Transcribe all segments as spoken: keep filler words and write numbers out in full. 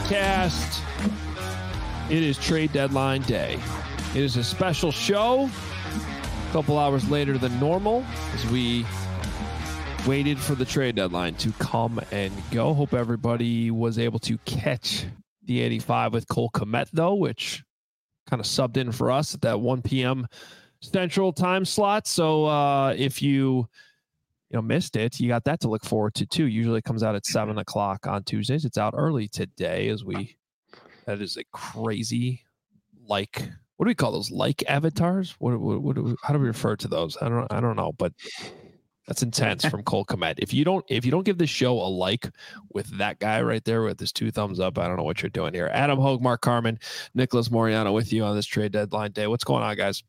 podcast. It is trade deadline day. It is a special show, a couple hours later than normal, as we waited for the trade deadline to come and go. Hope everybody was able to catch the eighty-five with Cole Kmet, though, which kind of subbed in for us at that one p.m. Central time slot. So uh, if you you know missed it, you got that to look forward to too. Usually it comes out at seven o'clock on Tuesdays. It's out early today, as we that is a crazy like what do we call those like avatars? What what, what do we, how do we refer to those? I don't I don't know, but that's intense from Cole Kmet. If you don't if you don't give this show a like with that guy right there with his two thumbs up, I don't know what you're doing here. Adam Hogue, Mark Carman, Nicholas Moriano with you on this trade deadline day. What's going on, guys?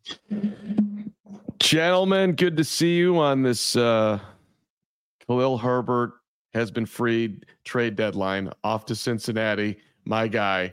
Gentlemen, good to see you on this uh Khalil Herbert has been freed trade deadline off to Cincinnati. My guy.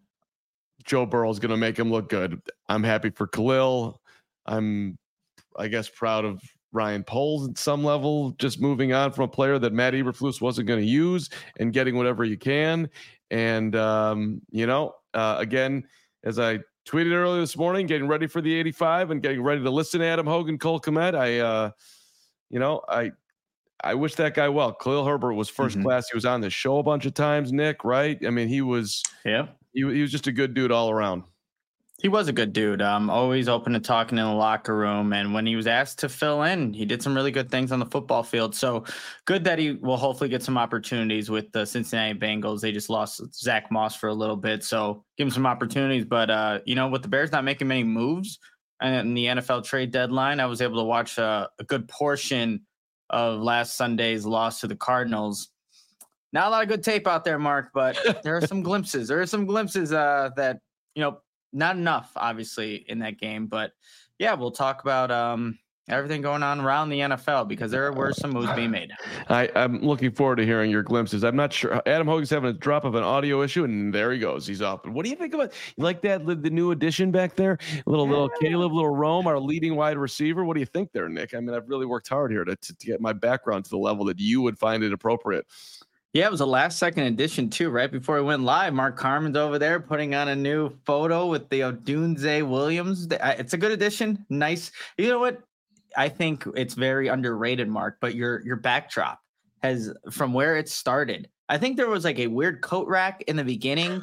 Joe Burrow is going to make him look good. I'm happy for Khalil. I'm, I guess, proud of Ryan Poles at some level, just moving on from a player that Matt Eberflus wasn't going to use and getting whatever you can. And, um, you know, uh, again, as I tweeted earlier this morning, getting ready for the eighty-five and getting ready to listen to Adam Hogan, Cole Kmet. I, uh, you know, I, I wish that guy well. Khalil Herbert was first mm-hmm. class. He was on the show a bunch of times, Nick, right? I mean, he was, yeah. He, he was just a good dude all around. He was a good dude. Um, always open to talking in the locker room. And when he was asked to fill in, he did some really good things on the football field. So good that he will hopefully get some opportunities with the Cincinnati Bengals. They just lost Zach Moss for a little bit. So give him some opportunities. But, uh, you know, with the Bears not making many moves in the N F L trade deadline, I was able to watch a, a good portion of last Sunday's loss to the Cardinals. Not a lot of good tape out there, Mark, but there are some glimpses. There are some glimpses uh, that, you know, not enough, obviously, in that game. But, yeah, we'll talk about um, everything going on around the N F L because there were some moves being made. I, I'm looking forward to hearing your glimpses. I'm not sure. Adam Hogan's having a drop of an audio issue, and there he goes. He's up. What do you think about you like that, the new addition back there? A little, little Caleb, little Rome, our leading wide receiver. What do you think there, Nick? I mean, I've really worked hard here to, to, to get my background to the level that you would find it appropriate. Yeah, it was a last second edition too. Right before we went live, Mark Carman's over there putting on a new photo with the Odunze Williams. It's a good addition. Nice. You know what? I think it's very underrated, Mark, but your, your backdrop has from where it started. I think there was like a weird coat rack in the beginning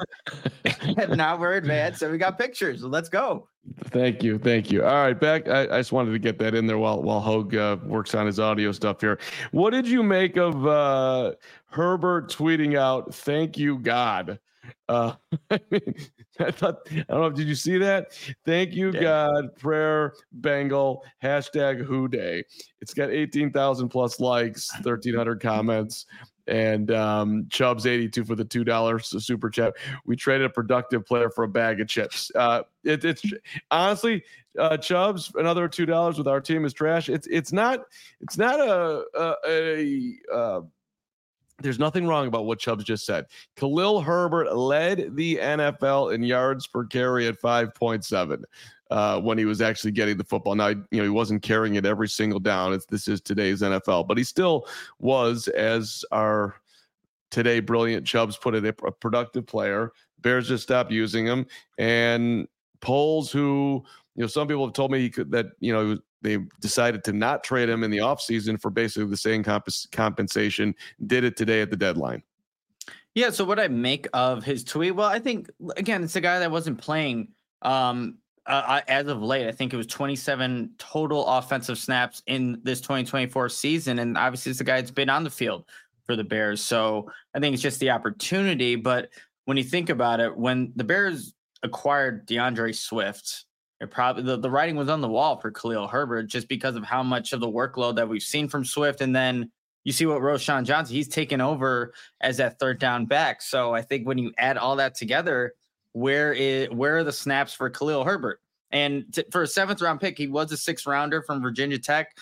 and now we're advanced. So we got pictures. Let's go. Thank you. Thank you. All right. Back. I, I just wanted to get that in there while, while Hogue uh, works on his audio stuff here. What did you make of uh, Herbert tweeting out, "Thank you, God"? Uh, I mean, I thought, I don't know. Did you see that? Thank you, yeah. God, prayer, Bengal, hashtag Who Day. It's got eighteen thousand plus likes, thirteen hundred comments. And um, Chubbs eighty-two for the two dollars super chat. We traded a productive player for a bag of chips. Uh, it, it's honestly, uh, Chubbs, another two dollars with our team is trash. It's it's not it's not a a, a uh, there's nothing wrong about what Chubbs just said. Khalil Herbert led the N F L in yards per carry at five point seven. Uh, when he was actually getting the football. Now, you know, he wasn't carrying it every single down. It's, this is today's N F L, but he still was, as our today brilliant Chubbs put it, a, a productive player. Bears just stopped using him. And Poles, who, you know, some people have told me he could, that, you know, they decided to not trade him in the offseason for basically the same comp- compensation, did it today at the deadline. Yeah, so what I make of his tweet, well, I think, again, it's a guy that wasn't playing um, Uh, as of late. I think it was twenty-seven total offensive snaps in this twenty twenty-four season. And obviously it's a guy that's been on the field for the Bears. So I think it's just the opportunity. But when you think about it, when the Bears acquired DeAndre Swift, it probably the, the writing was on the wall for Khalil Herbert just because of how much of the workload that we've seen from Swift. And then you see what Roschon Johnson, he's taken over as that third down back. So I think when you add all that together, Where is where are the snaps for Khalil Herbert? And t- for a seventh round pick, he was a sixth rounder from Virginia Tech.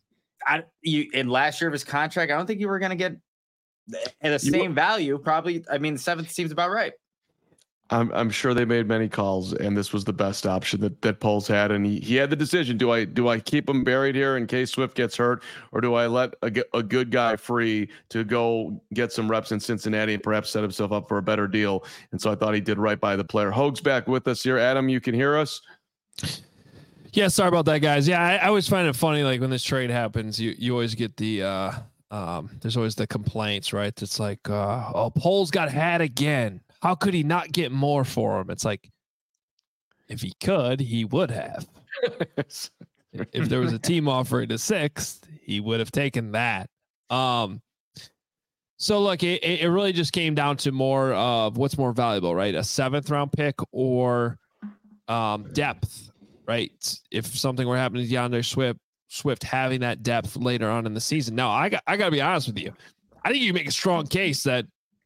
I you in last year of his contract, I don't think you were going to get at the same value. Probably, I mean, the seventh seems about right. I'm I'm sure they made many calls, and this was the best option that that Poles had, and he, he had the decision: do I do I keep him buried here in case Swift gets hurt, or do I let a, a good guy free to go get some reps in Cincinnati and perhaps set himself up for a better deal? And so I thought he did right by the player. Hoag's back with us here. Adam, you can hear us? Yeah, sorry about that, guys. Yeah, I, I always find it funny, like when this trade happens, you you always get the uh, um, there's always the complaints, right? It's like, uh, oh, Poles got had again. How could he not get more for him? It's like, if he could, he would have. If there was a team offering a sixth, he would have taken that. Um, so look, it, it really just came down to more of what's more valuable, right? A seventh round pick or um, depth, right? If something were happening to DeAndre Swift, Swift having that depth later on in the season. Now, I got I got to be honest with you. I think you make a strong case that,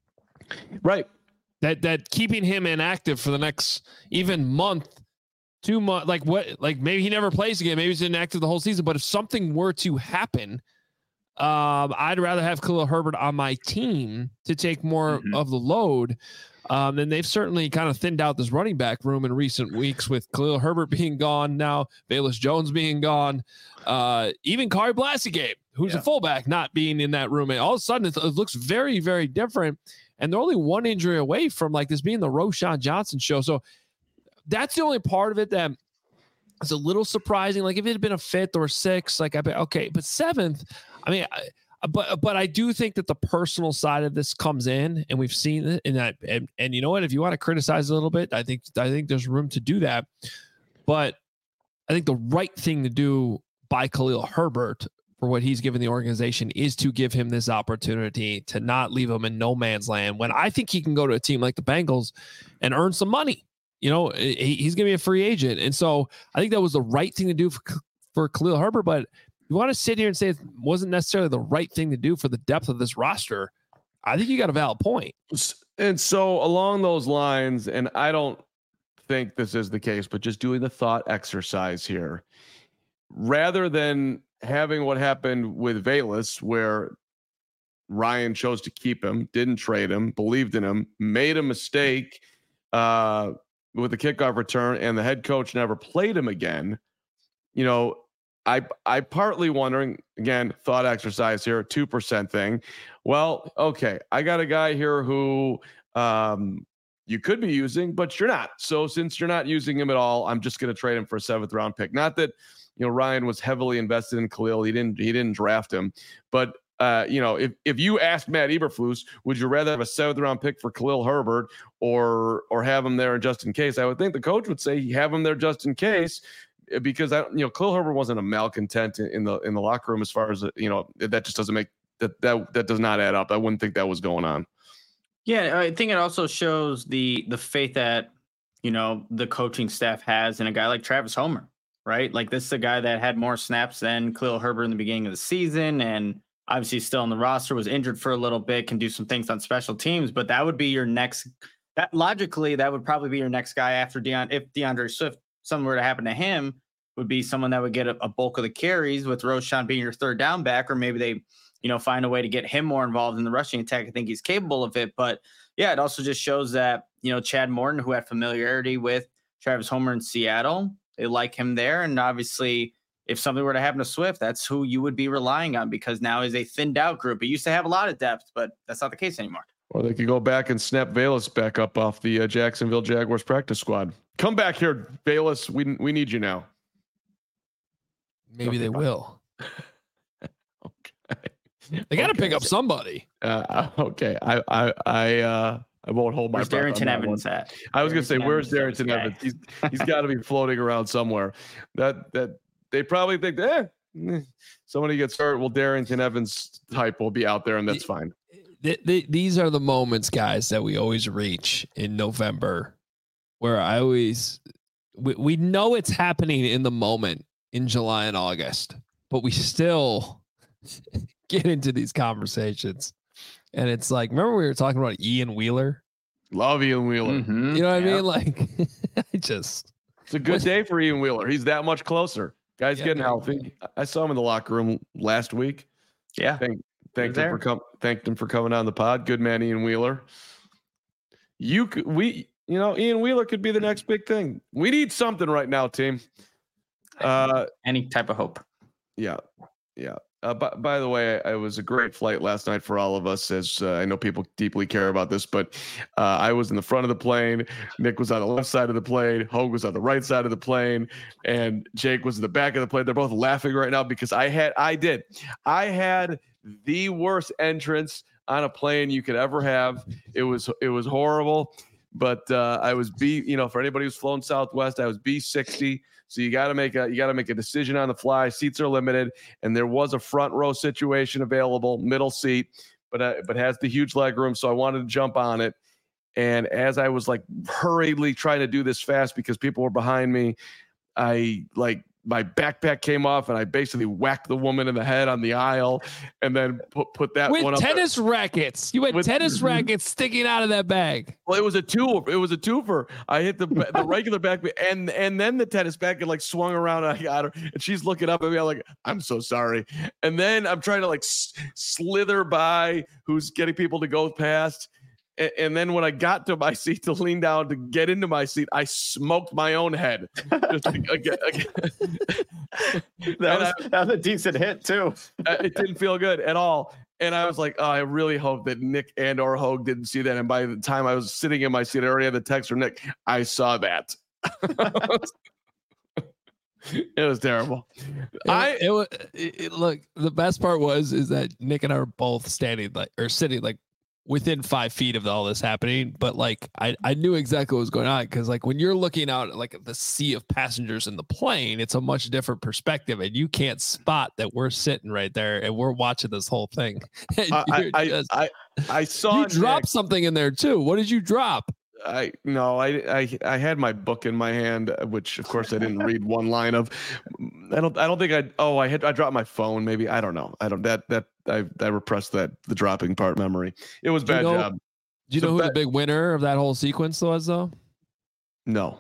right. That that keeping him inactive for the next even month, two months, like what, like maybe he never plays again. Maybe he's inactive the whole season. But if something were to happen, um, I'd rather have Khalil Herbert on my team to take more mm-hmm. of the load. Um, and they've certainly kind of thinned out this running back room in recent weeks with Khalil Herbert being gone now, Velus Jones being gone, uh, even Kari Blasingame, who's yeah. a fullback, not being in that room. And all of a sudden, it, it looks very, very different. And they're only one injury away from like this being the Roschon Johnson show. So that's the only part of it that is a little surprising. Like if it had been a fifth or sixth, like I bet, okay, but seventh, I mean, I, but, but I do think that the personal side of this comes in, and we've seen it in that. And, and you know what, if you want to criticize a little bit, I think, I think there's room to do that, but I think the right thing to do by Khalil Herbert for what he's given the organization is to give him this opportunity to not leave him in no man's land when I think he can go to a team like the Bengals and earn some money. You know, he, he's going to be a free agent. And so I think that was the right thing to do for, for Khalil Herbert, but you want to sit here and say it wasn't necessarily the right thing to do for the depth of this roster. I think you got a valid point. And so along those lines, and I don't think this is the case, but just doing the thought exercise here, rather than having what happened with Velus, where Ryan chose to keep him, didn't trade him, believed in him, made a mistake uh, with the kickoff return, and the head coach never played him again. You know, I I partly wondering, again, thought exercise here, two percent thing. Well, okay, I got a guy here who um, you could be using, but you're not. So since you're not using him at all, I'm just going to trade him for a seventh round pick. Not that, you know, Ryan was heavily invested in Khalil. He didn't he didn't draft him. But, uh, you know, if, if you asked Matt Eberflus, would you rather have a seventh round pick for Khalil Herbert or or have him there just in case? I would think the coach would say have him there just in case, because, I, you know, Khalil Herbert wasn't a malcontent in the in the locker room as far as, you know, that just doesn't make that that that does not add up. I wouldn't think that was going on. Yeah, I think it also shows the the faith that, you know, the coaching staff has in a guy like Travis Homer. Right? Like this is a guy that had more snaps than Khalil Herbert in the beginning of the season. And obviously still on the roster, was injured for a little bit, can do some things on special teams, but that would be your next, that logically, that would probably be your next guy after Deion. If DeAndre Swift, something were to happen to him, would be someone that would get a, a bulk of the carries, with Roschon being your third down back, or maybe they, you know, find a way to get him more involved in the rushing attack. I think he's capable of it, but yeah, it also just shows that, you know, Chad Morton, who had familiarity with Travis Homer in Seattle, they like him there. And obviously, if something were to happen to Swift, that's who you would be relying on, because now is a thinned out group. It used to have a lot of depth, but that's not the case anymore. Or they could go back and snap Velus back up off the uh, Jacksonville Jaguars practice squad. Come back here, Velus. We we need you now. Maybe okay, they fine. will. Okay. They got to okay. pick up somebody. Uh, okay. I I I uh I won't hold my breath. Where's Darrington Evans at? I was going to say, where's Evans Darrington Evans? He's he's got to be floating around somewhere. That that they probably think, eh, somebody gets hurt. Well, Darrington Evans type will be out there, and that's fine. The, the, these are the moments, guys, that we always reach in November, where I always we, we know it's happening in the moment in July and August, but we still get into these conversations. And it's like, remember we were talking about Ian Wheeler? Love Ian Wheeler. Mm-hmm. You know what yeah. I mean? Like, I just. It's a good day for Ian Wheeler. He's that much closer. Guy's yeah, getting healthy. I saw him in the locker room last week. Yeah. Thank, thanked him for com- thanked him for coming on the pod. Good man, Ian Wheeler. You we You know, Ian Wheeler could be the next big thing. We need something right now, team. Uh, Any type of hope. Yeah, yeah. Uh, by, by the way, it was a great flight last night for all of us, as uh, I know people deeply care about this, but uh, I was in the front of the plane. Nick was on the left side of the plane. Hogue was on the right side of the plane. And Jake was in the back of the plane. They're both laughing right now because I had, I did. I had the worst entrance on a plane you could ever have. It was, it was horrible, but uh, I was B, you know, for anybody who's flown Southwest, I was B sixty. So you got to make a you got to make a decision on the fly. Seats are limited, and there was a front row situation available, middle seat, but uh, but has the huge leg room. So I wanted to jump on it, and as I was like hurriedly trying to do this fast because people were behind me, I like my backpack came off, and I basically whacked the woman in the head on the aisle, and then put put that with one up tennis there. rackets. You had With, tennis rackets sticking out of that bag. Well, it was a two. It was a twofer. I hit the the regular back and and then the tennis bag and like swung around. And I got her, and she's looking up at me. I'm like, I'm so sorry. And then I'm trying to like s- slither by who's getting people to go past. And, and then when I got to my seat to lean down to get into my seat, I smoked my own head. Just again, again. that, was, I, that was a decent hit too. It didn't feel good at all. And I was like, oh, I really hope that Nick and or Hogue didn't see that. And by the time I was sitting in my seat, I already had the text from Nick. I saw that. It was terrible. It, I it was it, it, look. The best part was is that Nick and I were both standing like or sitting like within five feet of all this happening, but like I, I knew exactly what was going on because like when you're looking out at like the sea of passengers in the plane, it's a much different perspective, and you can't spot that we're sitting right there and we're watching this whole thing. I I, just, I I saw you dropped Nick, something in there too. What did you drop? I no, I, I I had my book in my hand, which of course I didn't read one line of. I don't I don't think I oh I had I dropped my phone maybe I don't know I don't that that I I repressed that the dropping part memory. It was bad you know, job. Do you so know who bad, the big winner of that whole sequence was though? No,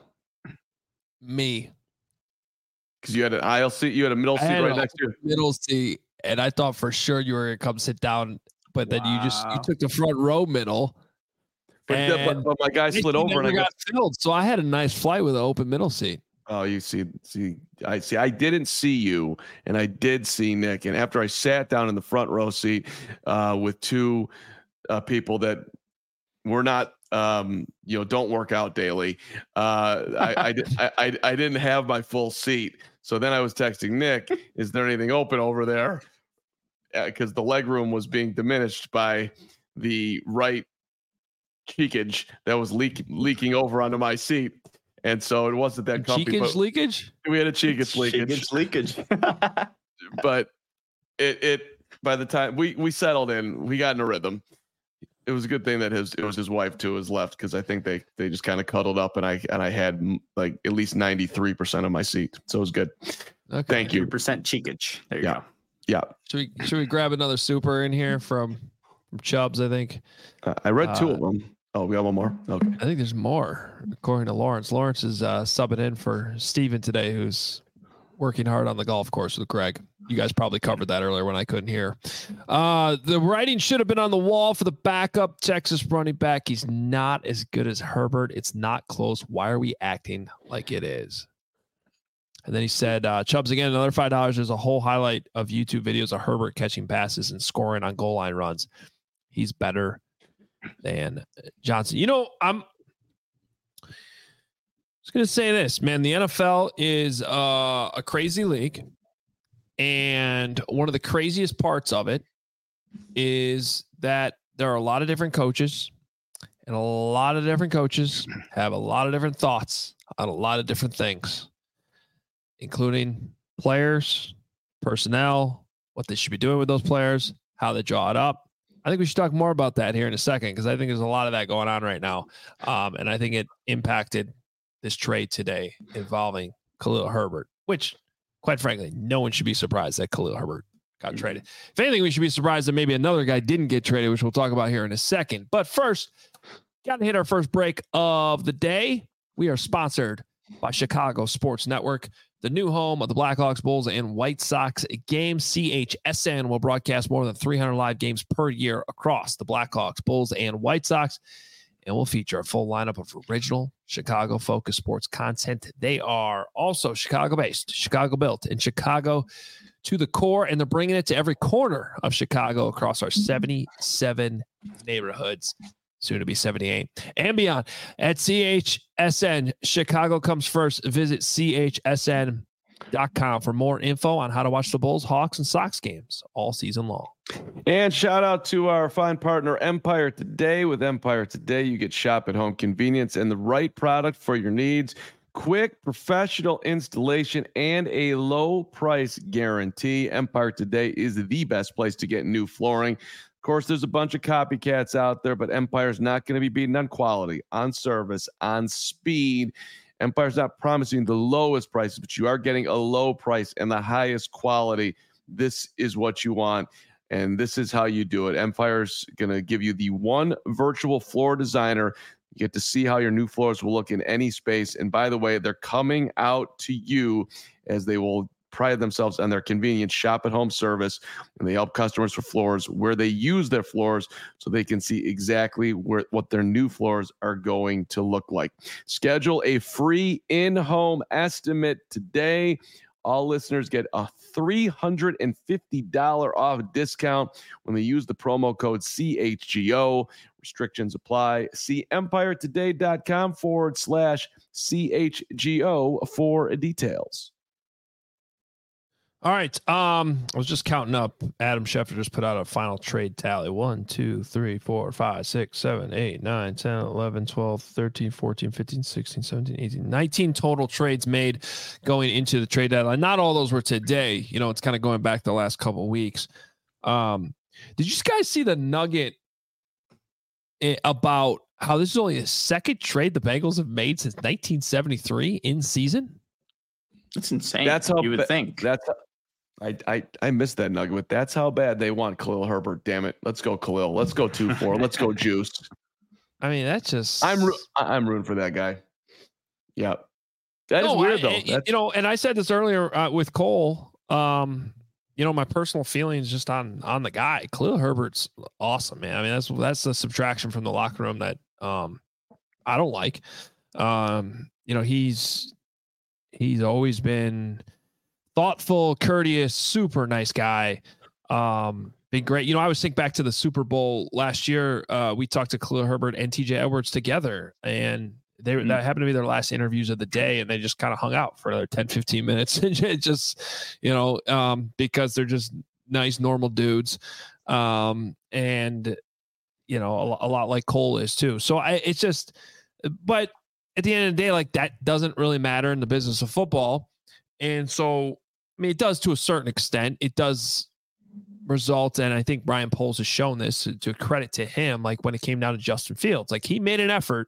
Me. because you had an aisle seat, you had a middle seat right next to you. Middle seat, and I thought for sure you were gonna come sit down, but then you just you Wow. took the front row middle. But, the, but, And but my guy slid it over and I never got got filled, so I had a nice flight with an open middle seat. Oh, you see, see, I see. I didn't see you, and I did see Nick. And after I sat down in the front row seat uh, with two uh, people that were not, um, you know, don't work out daily, uh, I, I, did, I, I, I didn't have my full seat. So then I was texting Nick, "Is there anything open over there?" Because uh, the leg room was being diminished by the right cheekage that was leak, leaking over onto my seat. And so it wasn't that comfy. Cheekage but leakage? We had a cheekage leakage. Cheekage leakage. But it it by the time we we settled in, we got in a rhythm. It was a good thing that his it was his wife to his left, because I think they they just kind of cuddled up, and I and I had like at least ninety-three percent of my seat. So it was good. Okay. Thank you. three percent cheekage. There you Yeah. go. Yeah. Should we should we grab another super in here from from Chubbs? I think. Uh, I read two Uh, of them. Oh, we got one more. Okay. I think there's more, according to Lawrence. Lawrence is uh, subbing in for Steven today, who's working hard on the golf course with Greg. You guys probably covered that earlier when I couldn't hear. Uh, the writing should have been on the wall for the backup Texas running back. He's not as good as Herbert. It's not close. Why are we acting like it is? And then he said, uh, Chubbs, again, another five dollars. There's a whole highlight of YouTube videos of Herbert catching passes and scoring on goal line runs. He's better than Johnson. You know, I'm just going to say this, man. The N F L is uh, a crazy league. And one of the craziest parts of it is that there are a lot of different coaches, and a lot of different coaches have a lot of different thoughts on a lot of different things, including players, personnel, what they should be doing with those players, how they draw it up. I think we should talk more about that here in a second, because I think there's a lot of that going on right now. Um, and I think it impacted this trade today involving Khalil Herbert, which, quite frankly, no one should be surprised that Khalil Herbert got mm-hmm. traded. If anything, we should be surprised that maybe another guy didn't get traded, which we'll talk about here in a second. But first, got to hit our first break of the day. We are sponsored by Chicago Sports Network, the new home of the Blackhawks, Bulls, and White Sox games. C H S N will broadcast more than three hundred live games per year across the Blackhawks, Bulls, and White Sox. and will feature a full lineup of original Chicago-focused sports content. They are also Chicago-based, Chicago-built, and Chicago to the core, and they're bringing it to every corner of Chicago across our seventy-seven neighborhoods, soon to be seventy-eight, and beyond. At C H S N, Chicago comes first. Visit C H S N dot com for more info on how to watch the Bulls, Hawks, and Sox games all season long. And shout out to our fine partner, Empire Today. With Empire Today, you get shop at home convenience and the right product for your needs. Quick, professional installation and a low price guarantee. Empire Today is the best place to get new flooring. Of course, there's a bunch of copycats out there, but Empire's not going to be beaten on quality, on service, on speed. Empire's not promising the lowest prices, but you are getting a low price and the highest quality. This is what you want, and this is how you do it. Empire's going to give you the one virtual floor designer. You get to see how your new floors will look in any space. And by the way, they're coming out to you, as they will pride themselves on their convenient shop at home service, and they help customers for floors where they use their floors so they can see exactly where what their new floors are going to look like. Schedule a free in-home estimate today. All listeners get a three hundred fifty dollars off discount when they use the promo code C H G O. Restrictions apply. See empiretoday.com forward slash CHGO for details. All right. Um, I was just counting up. Adam Schefter just put out a final trade tally. one, two, three, four, five, six, seven, eight, nine, ten, eleven, twelve, thirteen, fourteen, fifteen, sixteen, seventeen, eighteen, nineteen total trades made going into the trade deadline. Not all those were today. You know, it's kind of going back the last couple of weeks. Um, did you guys see the nugget about how this is only the second trade the Bengals have made since nineteen seventy-three in season? That's insane. That's how you would ba- think. That's how, I I I missed that nugget, but that's how bad they want Khalil Herbert. Damn it. Let's go Khalil. Let's go two four. Let's go Juice. I mean, that's just I'm I'm rooting for that guy. Yeah. That no, is weird I, though. I, That's, you know, and I said this earlier uh, with Cole. Um, you know, my personal feelings just on on the guy. Khalil Herbert's awesome, man. I mean, that's that's the subtraction from the locker room that um I don't like. Um, you know, he's he's always been thoughtful, courteous, super nice guy. Um, been great. You know, I always think back to the Super Bowl last year. Uh, we talked to Khalil Herbert and T J Edwards together, and they mm-hmm. that happened to be their last interviews of the day, and they just kind of hung out for another ten, fifteen minutes. And just, you know, um, because they're just nice, normal dudes. Um, and, you know, a, a lot like Cole is too. So I, it's just, but at the end of the day, like that doesn't really matter in the business of football. And so, I mean, it does to a certain extent. It does result, and I think Brian Poles has shown this to, to credit to him. Like when it came down to Justin Fields, like he made an effort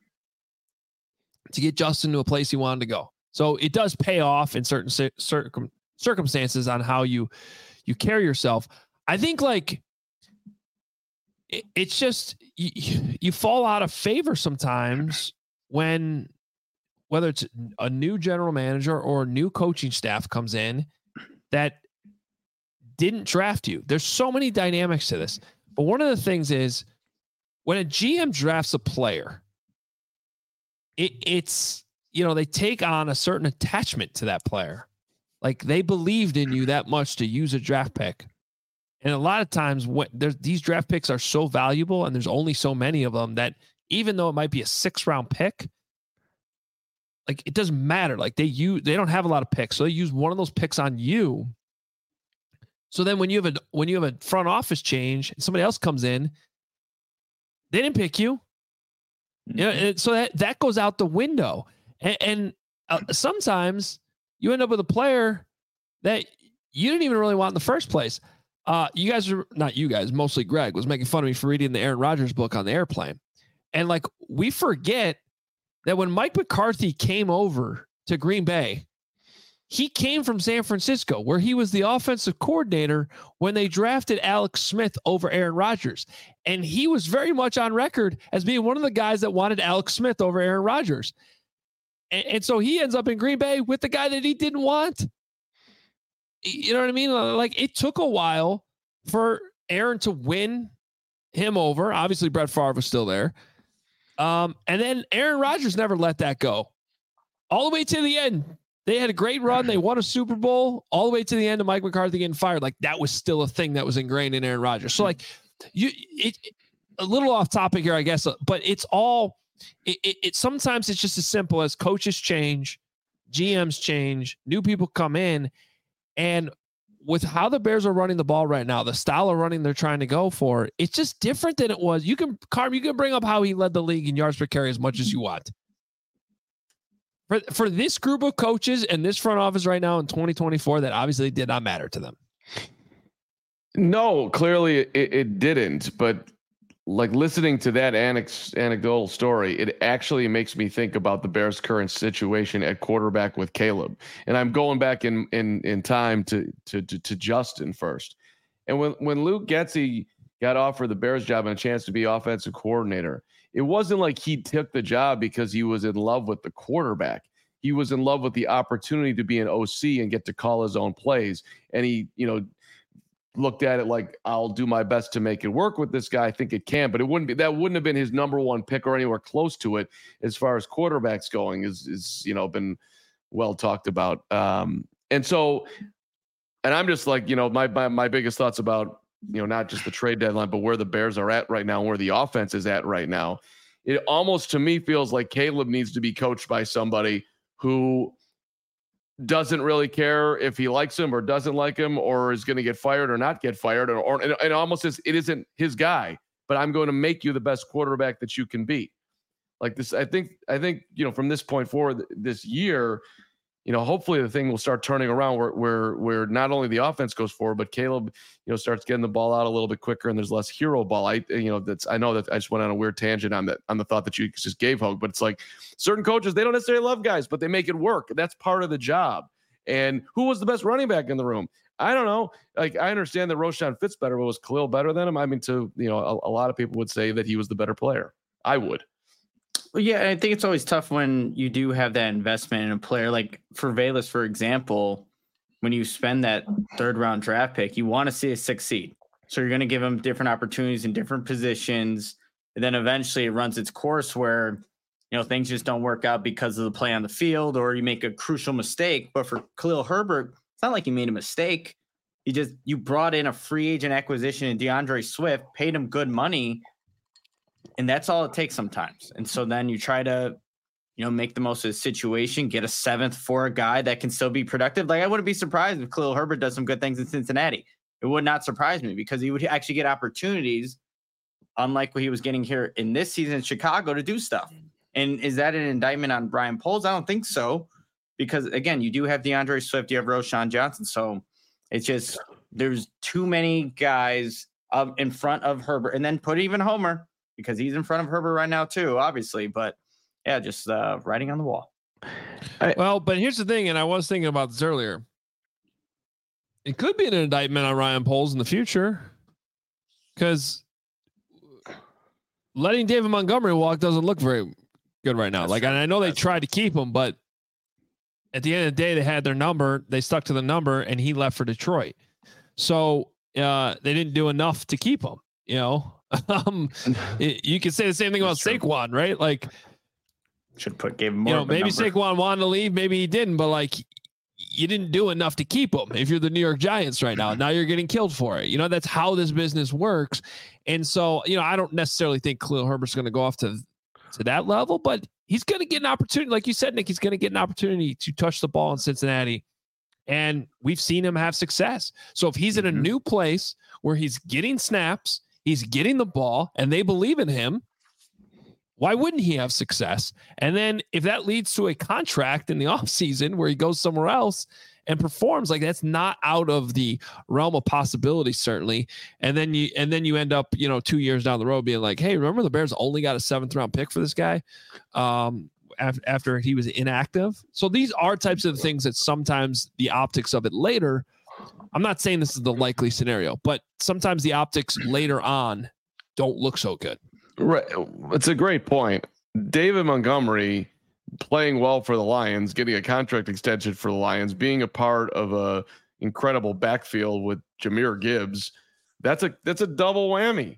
to get Justin to a place he wanted to go. So it does pay off in certain circum, circumstances on how you you carry yourself. I think like it, it's just you, you fall out of favor sometimes when, whether it's a new general manager or a new coaching staff comes in that didn't draft you. There's so many dynamics to this. But one of the things is when a G M drafts a player, it, it's, you know, they take on a certain attachment to that player. Like they believed in you that much to use a draft pick. And a lot of times when there's these draft picks are so valuable and there's only so many of them that even though it might be a six round pick, like it doesn't matter. Like they use, they don't have a lot of picks. So they use one of those picks on you. So then when you have a, when you have a front office change, somebody else comes in, they didn't pick you. Mm-hmm. You know, and so that, that goes out the window. And, and uh, sometimes you end up with a player that you didn't even really want in the first place. Uh, you guys are not you guys, mostly Greg was making fun of me for reading the Aaron Rodgers book on the airplane. And like, we forget that when Mike McCarthy came over to Green Bay, he came from San Francisco, where he was the offensive coordinator when they drafted Alex Smith over Aaron Rodgers. And he was very much on record as being one of the guys that wanted Alex Smith over Aaron Rodgers. And, and so he ends up in Green Bay with the guy that he didn't want. You know what I mean? Like it took a while for Aaron to win him over. Obviously, Brett Favre was still there. Um, and then Aaron Rodgers never let that go. All the way to the end. They had a great run. They won a Super Bowl all the way to the end of Mike McCarthy getting fired. Like that was still a thing that was ingrained in Aaron Rodgers. So like you, it, a little off topic here, I guess, but it's all, it, it, it sometimes it's just as simple as coaches change, G Ms change, new people come in, and with how the Bears are running the ball right now, the style of running they're trying to go for, it's just different than it was. You can, Carm, you can bring up how he led the league in yards per carry as much as you want. For, for this group of coaches and this front office right now in twenty twenty-four, that obviously did not matter to them. No, clearly it, it didn't. But like listening to that anec- anecdotal story, it actually makes me think about the Bears' current situation at quarterback with Caleb. And I'm going back in in in time to to to, to Justin first. And when when Luke Getsy got offered the Bears job and a chance to be offensive coordinator, it wasn't like he took the job because he was in love with the quarterback. He was in love with the opportunity to be an O C and get to call his own plays. And he, you know, looked at it like, I'll do my best to make it work with this guy. I think it can, but it wouldn't be, that wouldn't have been his number one pick or anywhere close to it as far as quarterbacks going is, is, you know, been well talked about. Um, and so, and I'm just like, you know, my, my, my biggest thoughts about, you know, not just the trade deadline, but where the Bears are at right now, where the offense is at right now. It almost to me feels like Caleb needs to be coached by somebody who doesn't really care if he likes him or doesn't like him or is going to get fired or not get fired. Or, or it almost says it isn't his guy, but I'm going to make you the best quarterback that you can be. Like this, I think, I think, you know, from this point forward this year, you know, hopefully the thing will start turning around where, where, where not only the offense goes forward, but Caleb, you know, starts getting the ball out a little bit quicker and there's less hero ball. I, you know, that's, I know that I just went on a weird tangent on that, on the thought that you just gave, Hogue, but it's like certain coaches, they don't necessarily love guys, but they make it work. That's part of the job. And who was the best running back in the room? I don't know. Like, I understand that Roshan fits better, but was Khalil better than him? I mean, to, you know, a, a lot of people would say that he was the better player. I would. Well, yeah, I think it's always tough when you do have that investment in a player. Like for Velus, for example, when you spend that third round draft pick, you want to see it succeed. So you're going to give him different opportunities in different positions. And then eventually it runs its course where, you know, things just don't work out because of the play on the field or you make a crucial mistake. But for Khalil Herbert, it's not like he made a mistake. You just, you brought in a free agent acquisition in DeAndre Swift, paid him good money. And that's all it takes sometimes. And so then you try to, you know, make the most of the situation, get a seventh for a guy that can still be productive. Like I wouldn't be surprised if Khalil Herbert does some good things in Cincinnati. It would not surprise me because he would actually get opportunities, unlike what he was getting here in this season in Chicago, to do stuff. And is that an indictment on Brian Poles? I don't think so. Because again, you do have DeAndre Swift, you have Roshan Johnson. So it's just, there's too many guys um, in front of Herbert, and then put even Homer, because he's in front of Herbert right now too, obviously. But yeah, just uh, writing on the wall. I, well, but here's the thing, and I was thinking about this earlier. It could be an indictment on Ryan Poles in the future, because letting David Montgomery walk doesn't look very good right now. That's like, true. And I know they That's tried true. to keep him, but at the end of the day, they had their number. They stuck to the number, and he left for Detroit. So uh, they didn't do enough to keep him. You know. Um, it, you can say the same thing about Saquon, right? Like, should put gave him more. You know, maybe number. Saquon wanted to leave, maybe he didn't, but like, you didn't do enough to keep him. If you're the New York Giants right now, now you're getting killed for it. You know, that's how this business works. And so, you know, I don't necessarily think Khalil Herbert's going to go off to to that level, but he's going to get an opportunity, like you said, Nick. He's going to get an opportunity to touch the ball in Cincinnati, and we've seen him have success. So if he's mm-hmm. in a new place where he's getting snaps, he's getting the ball, and they believe in him, why wouldn't he have success? And then if that leads to a contract in the offseason where he goes somewhere else and performs, like, that's not out of the realm of possibility, certainly. And then you and then you end up, you know, two years down the road being like, hey, remember the Bears only got a seventh round pick for this guy um, af- after he was inactive? So these are types of things that sometimes the optics of it later, I'm not saying this is the likely scenario, but sometimes the optics later on don't look so good. Right. It's a great point. David Montgomery playing well for the Lions, getting a contract extension for the Lions, being a part of a incredible backfield with Jahmyr Gibbs. That's a, that's a double whammy.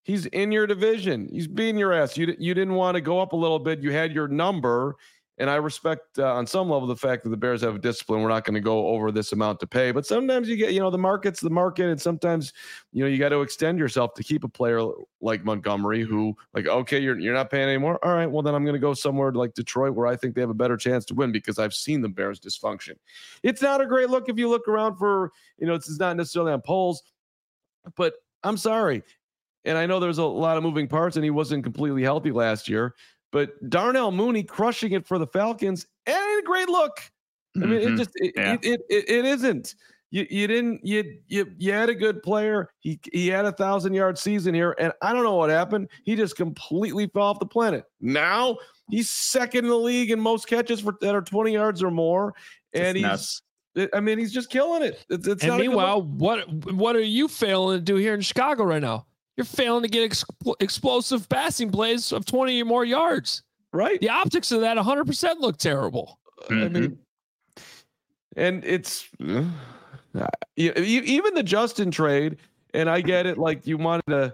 He's in your division. He's beating your ass. You you didn't want to go up a little bit. You had your number, and I respect uh, on some level the fact that the Bears have a discipline. We're not going to go over this amount to pay, but sometimes you get, you know, the market's the market, and sometimes, you know, you got to extend yourself to keep a player like Montgomery, who, like, okay, you're you're not paying anymore. All right, well then I'm going to go somewhere like Detroit where I think they have a better chance to win because I've seen the Bears dysfunction. It's not a great look if you look around for, you know, it's not necessarily on polls, but I'm sorry. And I know there's a lot of moving parts, and he wasn't completely healthy last year. But Darnell Mooney crushing it for the Falcons, and a great look. I mean, mm-hmm. it just it, yeah. it, it, it it isn't. You you didn't you you you had a good player. He he had a thousand yard season here, and I don't know what happened. He just completely fell off the planet. Now he's second in the league in most catches for that are twenty yards or more, and just he's. Nuts. I mean, he's just killing it. It's, it's and not meanwhile, what what are you failing to do here in Chicago right now? You're failing to get ex- explosive passing plays of twenty or more yards. Right. The optics of that one hundred percent look terrible. Mm-hmm. I mean, and it's uh, even the Justin trade, and I get it. Like, you wanted to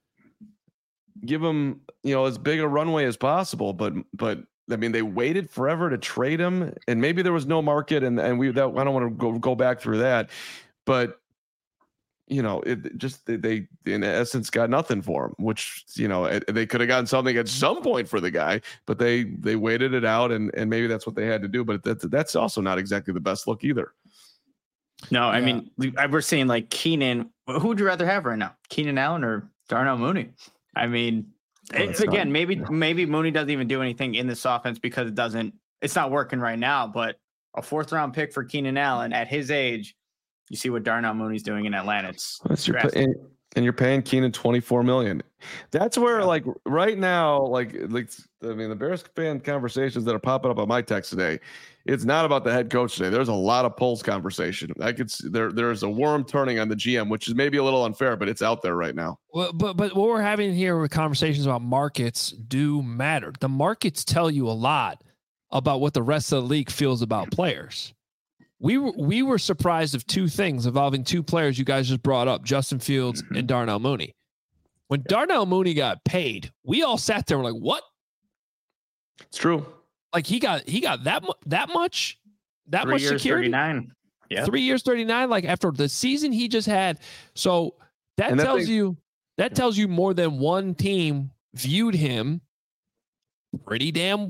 give him, you know, as big a runway as possible, but but I mean, they waited forever to trade him, and maybe there was no market, and and we that I don't want to go go back through that, but. You know, it just they, they in essence got nothing for him, which, you know, it, they could have gotten something at some point for the guy, but they they waited it out, and and maybe that's what they had to do. But that's that's also not exactly the best look either. No, I yeah. mean, we're seeing like Keenan. Who would you rather have right now, Keenan Allen or Darnell Mooney? I mean, oh, it's again, not, maybe no. maybe Mooney doesn't even do anything in this offense because it doesn't. It's not working right now. But a fourth round pick for Keenan Allen at his age. You see what Darnell Mooney's doing in Atlanta. It's That's your pay, and, and you're paying Keenan twenty-four million dollars. That's where, yeah. like, right now, like, like I mean, the Bears fan conversations that are popping up on my text today, it's not about the head coach today. There's a lot of polls conversation. I could see there. There's a worm turning on the G M, which is maybe a little unfair, but it's out there right now. Well, but but what we're having here with conversations about markets do matter. The markets tell you a lot about what the rest of the league feels about players. We were we were surprised of two things involving two players you guys just brought up, Justin Fields mm-hmm. and Darnell Mooney. When Darnell Mooney got paid, we all sat there and were like, "What?" It's true. Like he got he got that mu- that much that Three much years, security. thirty-nine. Yeah, three years, thirty-nine. Like after the season he just had, so that, that tells thing- you that tells you more than one team viewed him pretty damn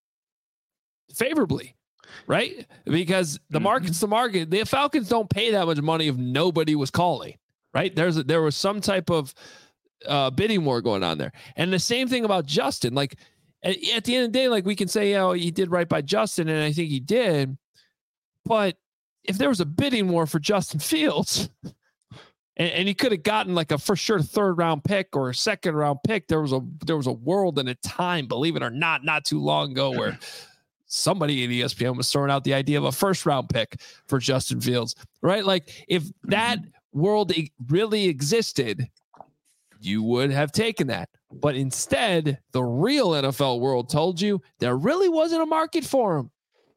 favorably. Right? Because the market's the market. The Falcons don't pay that much money if nobody was calling, right? There's a, there was some type of uh, bidding war going on there. And the same thing about Justin. Like at, at the end of the day, like we can say, oh, he did right by Justin, and I think he did. But if there was a bidding war for Justin Fields, and, and he could have gotten like a for sure third round pick or a second round pick, there was a there was a world and a time, believe it or not, not too long ago where somebody at E S P N was throwing out the idea of a first round pick for Justin Fields, right? Like if that world really existed, you would have taken that. But instead, the real N F L world told you there really wasn't a market for him.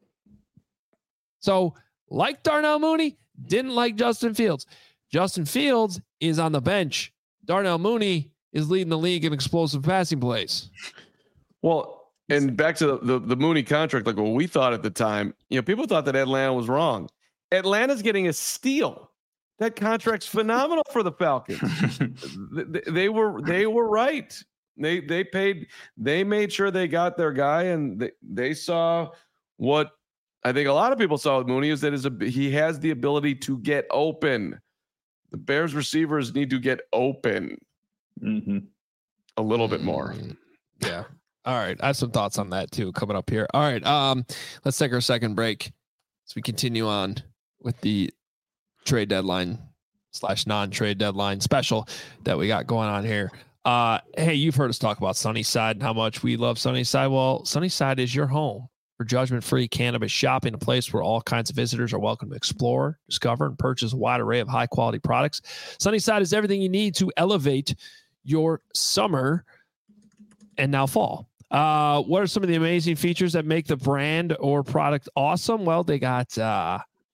So like Darnell Mooney, didn't like Justin Fields. Justin Fields is on the bench. Darnell Mooney is leading the league in explosive passing plays. Well, and back to the, the, the Mooney contract, like what we thought at the time, you know, people thought that Atlanta was wrong. Atlanta's getting a steal. That contract's phenomenal for the Falcons. they, they were they were right. They they paid. They made sure they got their guy, and they, they saw what I think a lot of people saw with Mooney is that is a he has the ability to get open. The Bears receivers need to get open mm-hmm. a little bit more. Yeah. All right. I have some thoughts on that too coming up here. All right. Um, let's take our second break as we continue on with the trade deadline slash non-trade deadline special that we got going on here. Uh, hey, you've heard us talk about Sunnyside and how much we love Sunnyside. Well, Sunnyside is your home for judgment-free cannabis shopping, a place where all kinds of visitors are welcome to explore, discover, and purchase a wide array of high-quality products. Sunnyside is everything you need to elevate your summer and now fall. Uh, what are some of the amazing features that make the brand or product awesome? Well, they got uh,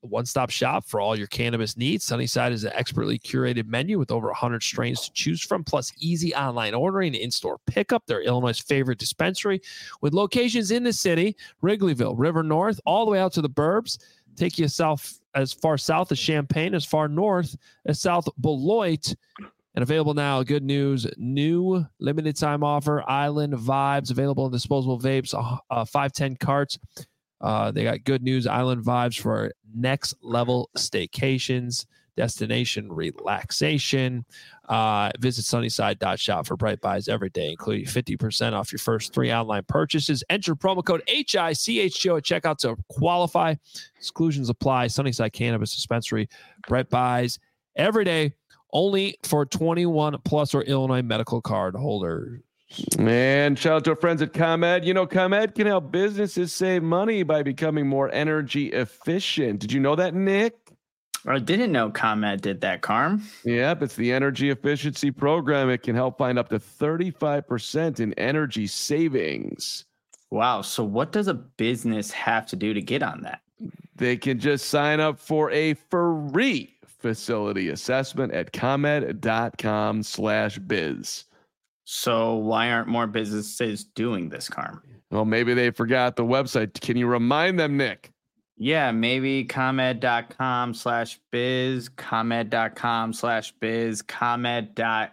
a one-stop shop for all your cannabis needs. Sunnyside is an expertly curated menu with over one hundred strains to choose from, plus easy online ordering and in-store pickup. They're Illinois' favorite dispensary with locations in the city, Wrigleyville, River North, all the way out to the burbs. Take you south, as far south as Champaign, as far north as South Beloit. And available now, good news, new limited time offer, Island Vibes, available in disposable vapes, uh, five ten carts. Uh, they got good news, Island Vibes for next level staycations, destination relaxation. Uh, visit sunnyside dot shop for bright buys every day, including fifty percent off your first three online purchases. Enter promo code H I C H G O at checkout to qualify. Exclusions apply. Sunnyside Cannabis Dispensary, bright buys every day. Only for twenty-one plus or Illinois medical card holders. And shout out to our friends at ComEd. You know, ComEd can help businesses save money by becoming more energy efficient. Did you know that, Nick? I didn't know ComEd did that, Carm. Yep, it's the energy efficiency program. It can help find up to thirty-five percent in energy savings. Wow. So what does a business have to do to get on that? They can just sign up for a free facility assessment at comed.com slash biz. So why aren't more businesses doing this, Carm? Well, maybe they forgot the website. Can you remind them, Nick? Yeah, maybe comed.com slash biz, comed.com slash biz, comed.com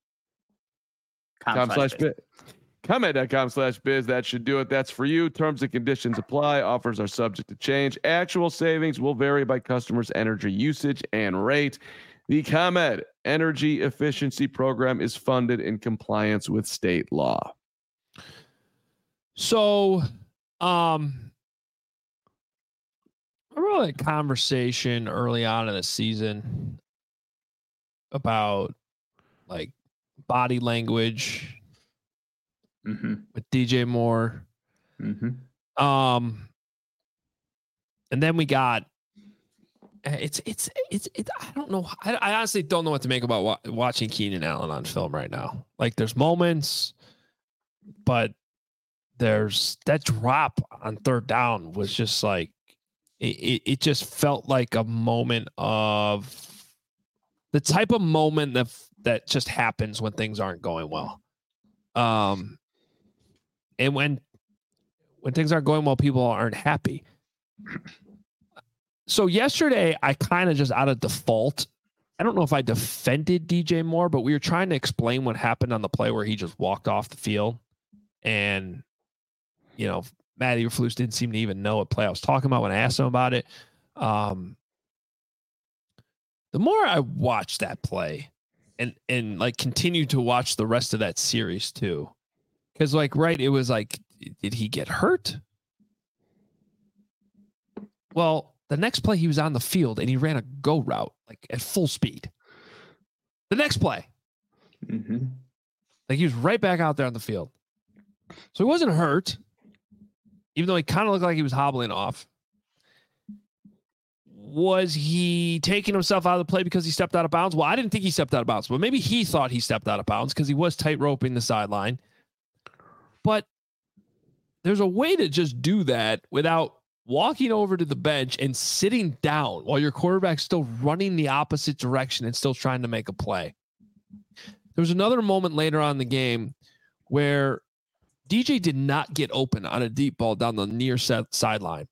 slash biz. comed.com slash biz. That should do it. That's for you. Terms and conditions apply. Offers are subject to change. Actual savings will vary by customer's energy usage and rate. The ComEd Energy Efficiency Program is funded in compliance with state law. So, um, I remember a conversation early on in the season about like body language. Mm-hmm. With D J Moore. Mm-hmm. Um, and then we got, it's, it's, it's, it's I don't know. I, I honestly don't know what to make about wa- watching Keenan Allen on film right now. Like there's moments, but there's that drop on third down was just like, it, it, it just felt like a moment of the type of moment that, that just happens when things aren't going well. Um, And when when things aren't going well, people aren't happy. So yesterday, I kind of just out of default, I don't know if I defended D J Moore, but we were trying to explain what happened on the play where he just walked off the field. And, you know, Matt Eberflus didn't seem to even know what play I was talking about when I asked him about it. Um, the more I watched that play and, and like continue to watch the rest of that series too, because, like, right, it was like, did he get hurt? Well, the next play he was on the field and he ran a go route, like, at full speed. The next play. Mm-hmm. Like, he was right back out there on the field. So he wasn't hurt, even though he kind of looked like he was hobbling off. Was he taking himself out of the play because he stepped out of bounds? Well, I didn't think he stepped out of bounds, but maybe he thought he stepped out of bounds because he was tight roping the sideline. But there's a way to just do that without walking over to the bench and sitting down while your quarterback's still running the opposite direction and still trying to make a play. There was another moment later on in the game where D J did not get open on a deep ball down the near set sideline.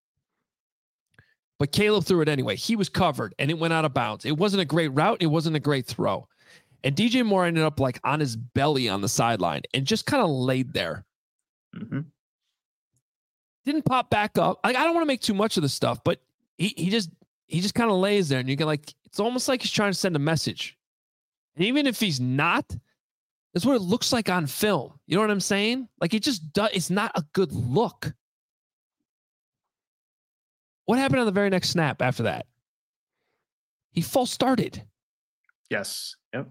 But Caleb threw it anyway. He was covered and it went out of bounds. It wasn't a great route. It wasn't a great throw. And D J Moore ended up like on his belly on the sideline and just kind of laid there. Mm-hmm. Didn't pop back up. Like, I don't want to make too much of this stuff, but he he just he just kind of lays there, and you can like it's almost like he's trying to send a message. And even if he's not, that's what it looks like on film. You know what I'm saying? Like it just does. It's not a good look. What happened on the very next snap after that? He false started. Yes. Yep.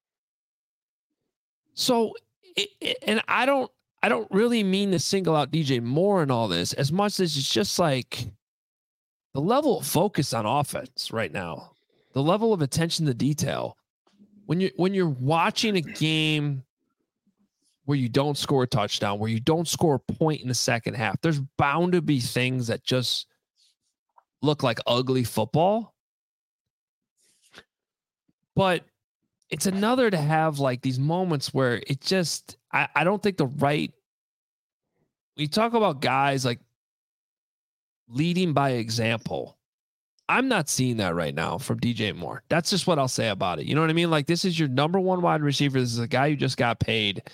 So, it, it, and I don't, I don't really mean to single out D J Moore and all this as much as it's just like the level of focus on offense right now, the level of attention to detail. When you when you're watching a game where you don't score a touchdown, where you don't score a point in the second half, there's bound to be things that just look like ugly football. But it's another to have like these moments where it just, I, I don't think the right, we talk about guys like leading by example. I'm not seeing that right now from D J Moore. That's just what I'll say about it. You know what I mean? Like, this is your number one wide receiver. This is a guy who just got paid.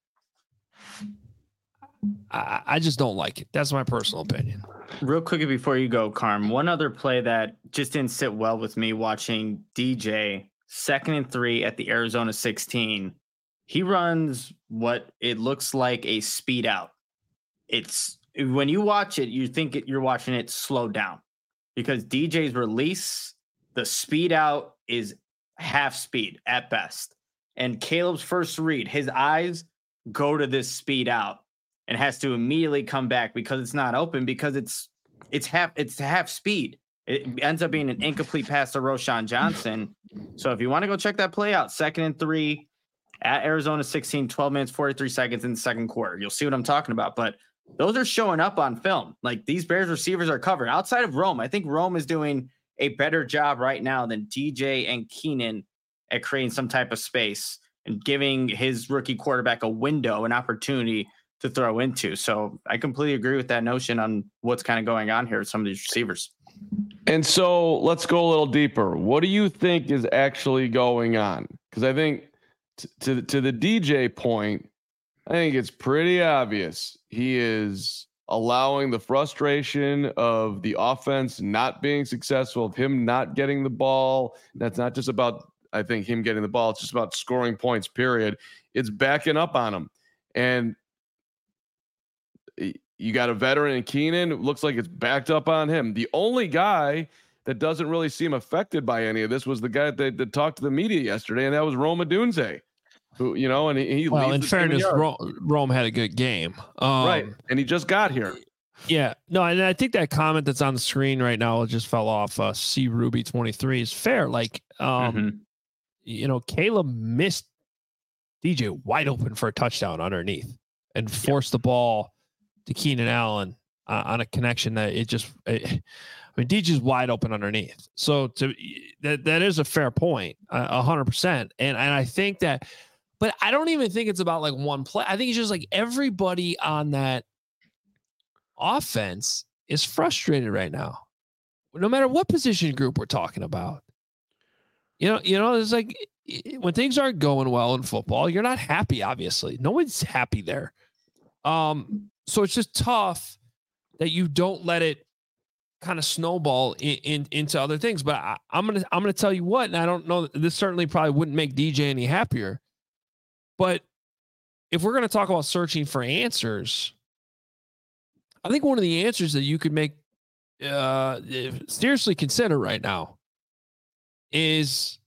I, I just don't like it. That's my personal opinion. Real quickly before you go, Carm, one other play that just didn't sit well with me watching D J second and three at the Arizona sixteen. He runs what it looks like a speed out. It's when you watch it, you think it, you're watching it slow down because D J's release, the speed out is half speed at best. And Caleb's first read, his eyes go to this speed out and has to immediately come back because it's not open because it's it's half it's half speed. It ends up being an incomplete pass to Roschon Johnson. So if you want to go check that play out, second and three at Arizona sixteen, twelve minutes, forty-three seconds in the second quarter. You'll see what I'm talking about. But those are showing up on film. Like, these Bears receivers are covered. Outside of Rome, I think Rome is doing a better job right now than D J and Keenan at creating some type of space and giving his rookie quarterback a window, an opportunity to throw into. So I completely agree with that notion on what's kind of going on here with some of these receivers. And so let's go a little deeper. What do you think is actually going on? Because I think t- to, to the D J point, I think it's pretty obvious. He is allowing the frustration of the offense not being successful, of him not getting the ball. That's not just about, I think, him getting the ball. It's just about scoring points, period. It's backing up on him. And you got a veteran in Keenan. It looks like it's backed up on him. The only guy that doesn't really seem affected by any of this was the guy that, that talked to the media yesterday, and that was Rome Odunze, who, you know, and he, he well, in fairness, Rome, Rome had a good game. Um, right. And he just got here. Yeah. No, and I think that comment that's on the screen right now just fell off. Uh, C Ruby twenty-three is fair. Like, um, mm-hmm. you know, Caleb missed D J wide open for a touchdown underneath and forced yep. the ball to Keenan Allen uh, on a connection that it just, it, I mean, D J's wide open underneath. So to that, that is a fair point, a hundred percent. And, and I think that, but I don't even think it's about like one play. I think it's just like everybody on that offense is frustrated right now, no matter what position group we're talking about. You know, you know, it's like when things aren't going well in football, you're not happy. Obviously, no one's happy there. Um, so it's just tough that you don't let it kind of snowball in, in into other things. But I, I'm gonna I'm gonna tell you what, and I don't know. This certainly probably wouldn't make D J any happier. But if we're gonna talk about searching for answers, I think one of the answers that you could make uh, seriously consider right now is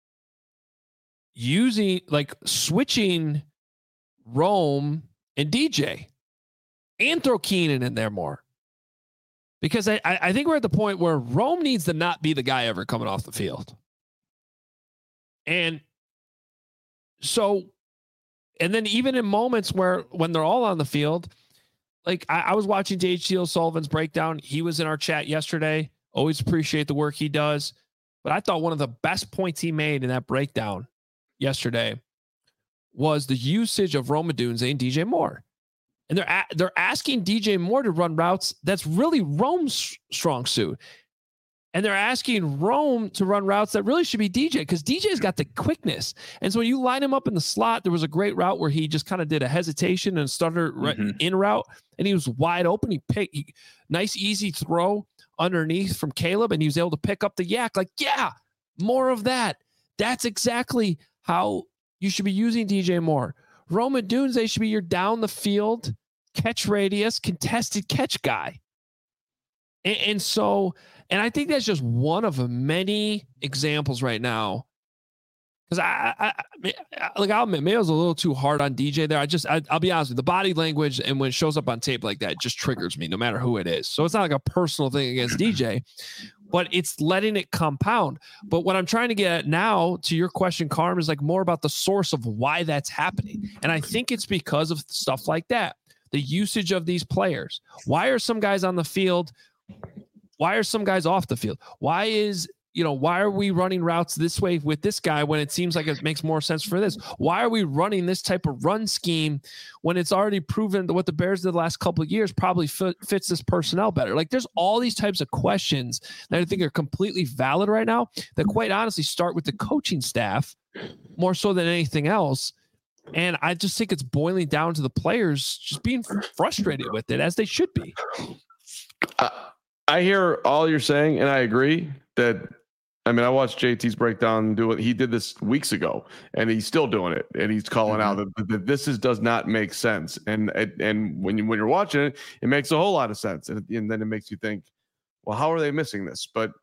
using like switching Rome and D J and throw Keenan in there more. Because I, I think we're at the point where Rome needs to not be the guy ever coming off the field. And so, and then even in moments where when they're all on the field, like I, I was watching Dave Steele Sullivan's breakdown. He was in our chat yesterday. Always appreciate the work he does. But I thought one of the best points he made in that breakdown yesterday was the usage of Rome Odunze and D J Moore. And they're a, they're asking D J Moore to run routes that's really Rome's strong suit. And they're asking Rome to run routes that really should be D J because D J's got the quickness. And so when you line him up in the slot, there was a great route where he just kind of did a hesitation and started mm-hmm. in route, and he was wide open. He picked he, nice, easy throw underneath from Caleb, and he was able to pick up the yak. Like, yeah, more of that. That's exactly how you should be using D J Moore. Rome Odunze should be your down the field, catch radius, contested catch guy. And, and so, and I think that's just one of many examples right now. Because I, I, I, like, I'll admit, maybe I was a little too hard on D J there. I just, I, I'll be honest with you, the body language and when it shows up on tape like that, it just triggers me no matter who it is. So it's not like a personal thing against D J, but it's letting it compound. But what I'm trying to get at now to your question, Carm, is like more about the source of why that's happening. And I think it's because of stuff like that. The usage of these players. Why are some guys on the field why are some guys off the field? Why is, you know, why are we running routes this way with this guy when it seems like it makes more sense for this? Why are we running this type of run scheme when it's already proven that what the Bears did the last couple of years probably fit, fits this personnel better? Like, there's all these types of questions that I think are completely valid right now that quite honestly start with the coaching staff more so than anything else. And I just think it's boiling down to the players just being frustrated with it, as they should be. Uh, I hear all you're saying, and I agree that, I mean, I watched J T's breakdown do it. He did this weeks ago, and he's still doing it. And he's calling mm-hmm. out that, that this is does not make sense. And and when you when you're watching it, it makes a whole lot of sense. And, and then it makes you think, well, how are they missing this? But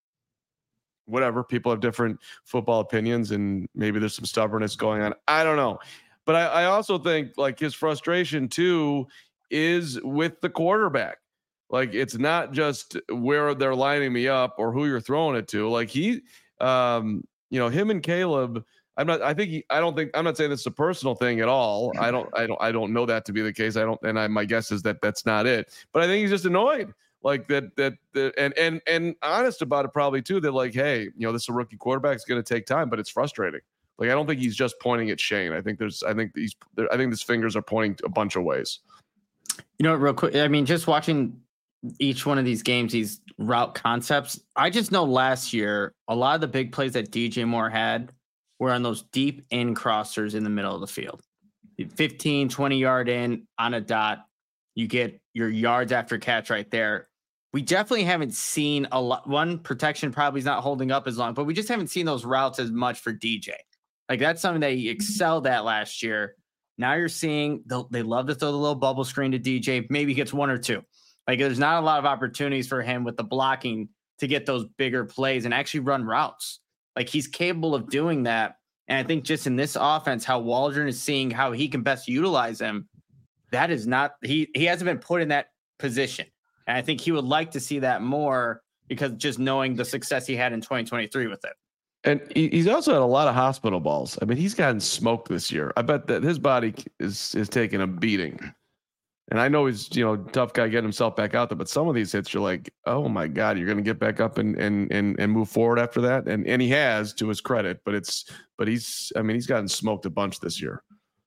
whatever, people have different football opinions, and maybe there's some stubbornness going on. I don't know. But I, I also think like his frustration too is with the quarterback. Like, it's not just where they're lining me up or who you're throwing it to. Like he, um, you know, him and Caleb, I'm not, I think, he, I don't think, I'm not saying this is a personal thing at all. I don't, I don't, I don't know that to be the case. I don't, and I, my guess is that that's not it, but I think he's just annoyed. Like that, that, that, and, and, and honest about it probably too. That like, hey, you know, this is a rookie quarterback. It's going to take time, but it's frustrating. Like, I don't think he's just pointing at Shane. I think there's, I think he's, I think his fingers are pointing a bunch of ways. You know, real quick, I mean, just watching each one of these games, these route concepts, I just know last year, a lot of the big plays that D J Moore had were on those deep in crossers in the middle of the field. fifteen, twenty yard in on a dot. You get your yards after catch right there. We definitely haven't seen a lot. One, protection probably is not holding up as long, but we just haven't seen those routes as much for D J. Like, that's something that he excelled at last year. Now you're seeing the, they love to throw the little bubble screen to D J. Maybe he gets one or two. Like, there's not a lot of opportunities for him with the blocking to get those bigger plays and actually run routes. Like, he's capable of doing that. And I think just in this offense, how Waldron is seeing how he can best utilize him, that is not, he, he hasn't been put in that position. And I think he would like to see that more, because just knowing the success he had in twenty twenty-three with it. And he's also had a lot of hospital balls. I mean, he's gotten smoked this year. I bet that his body is, is taking a beating. And I know he's, you know, tough guy getting himself back out there, but some of these hits, you're like, oh my God, you're going to get back up and, and, and, and move forward after that. And, and he has, to his credit, but it's, but he's, I mean, he's gotten smoked a bunch this year.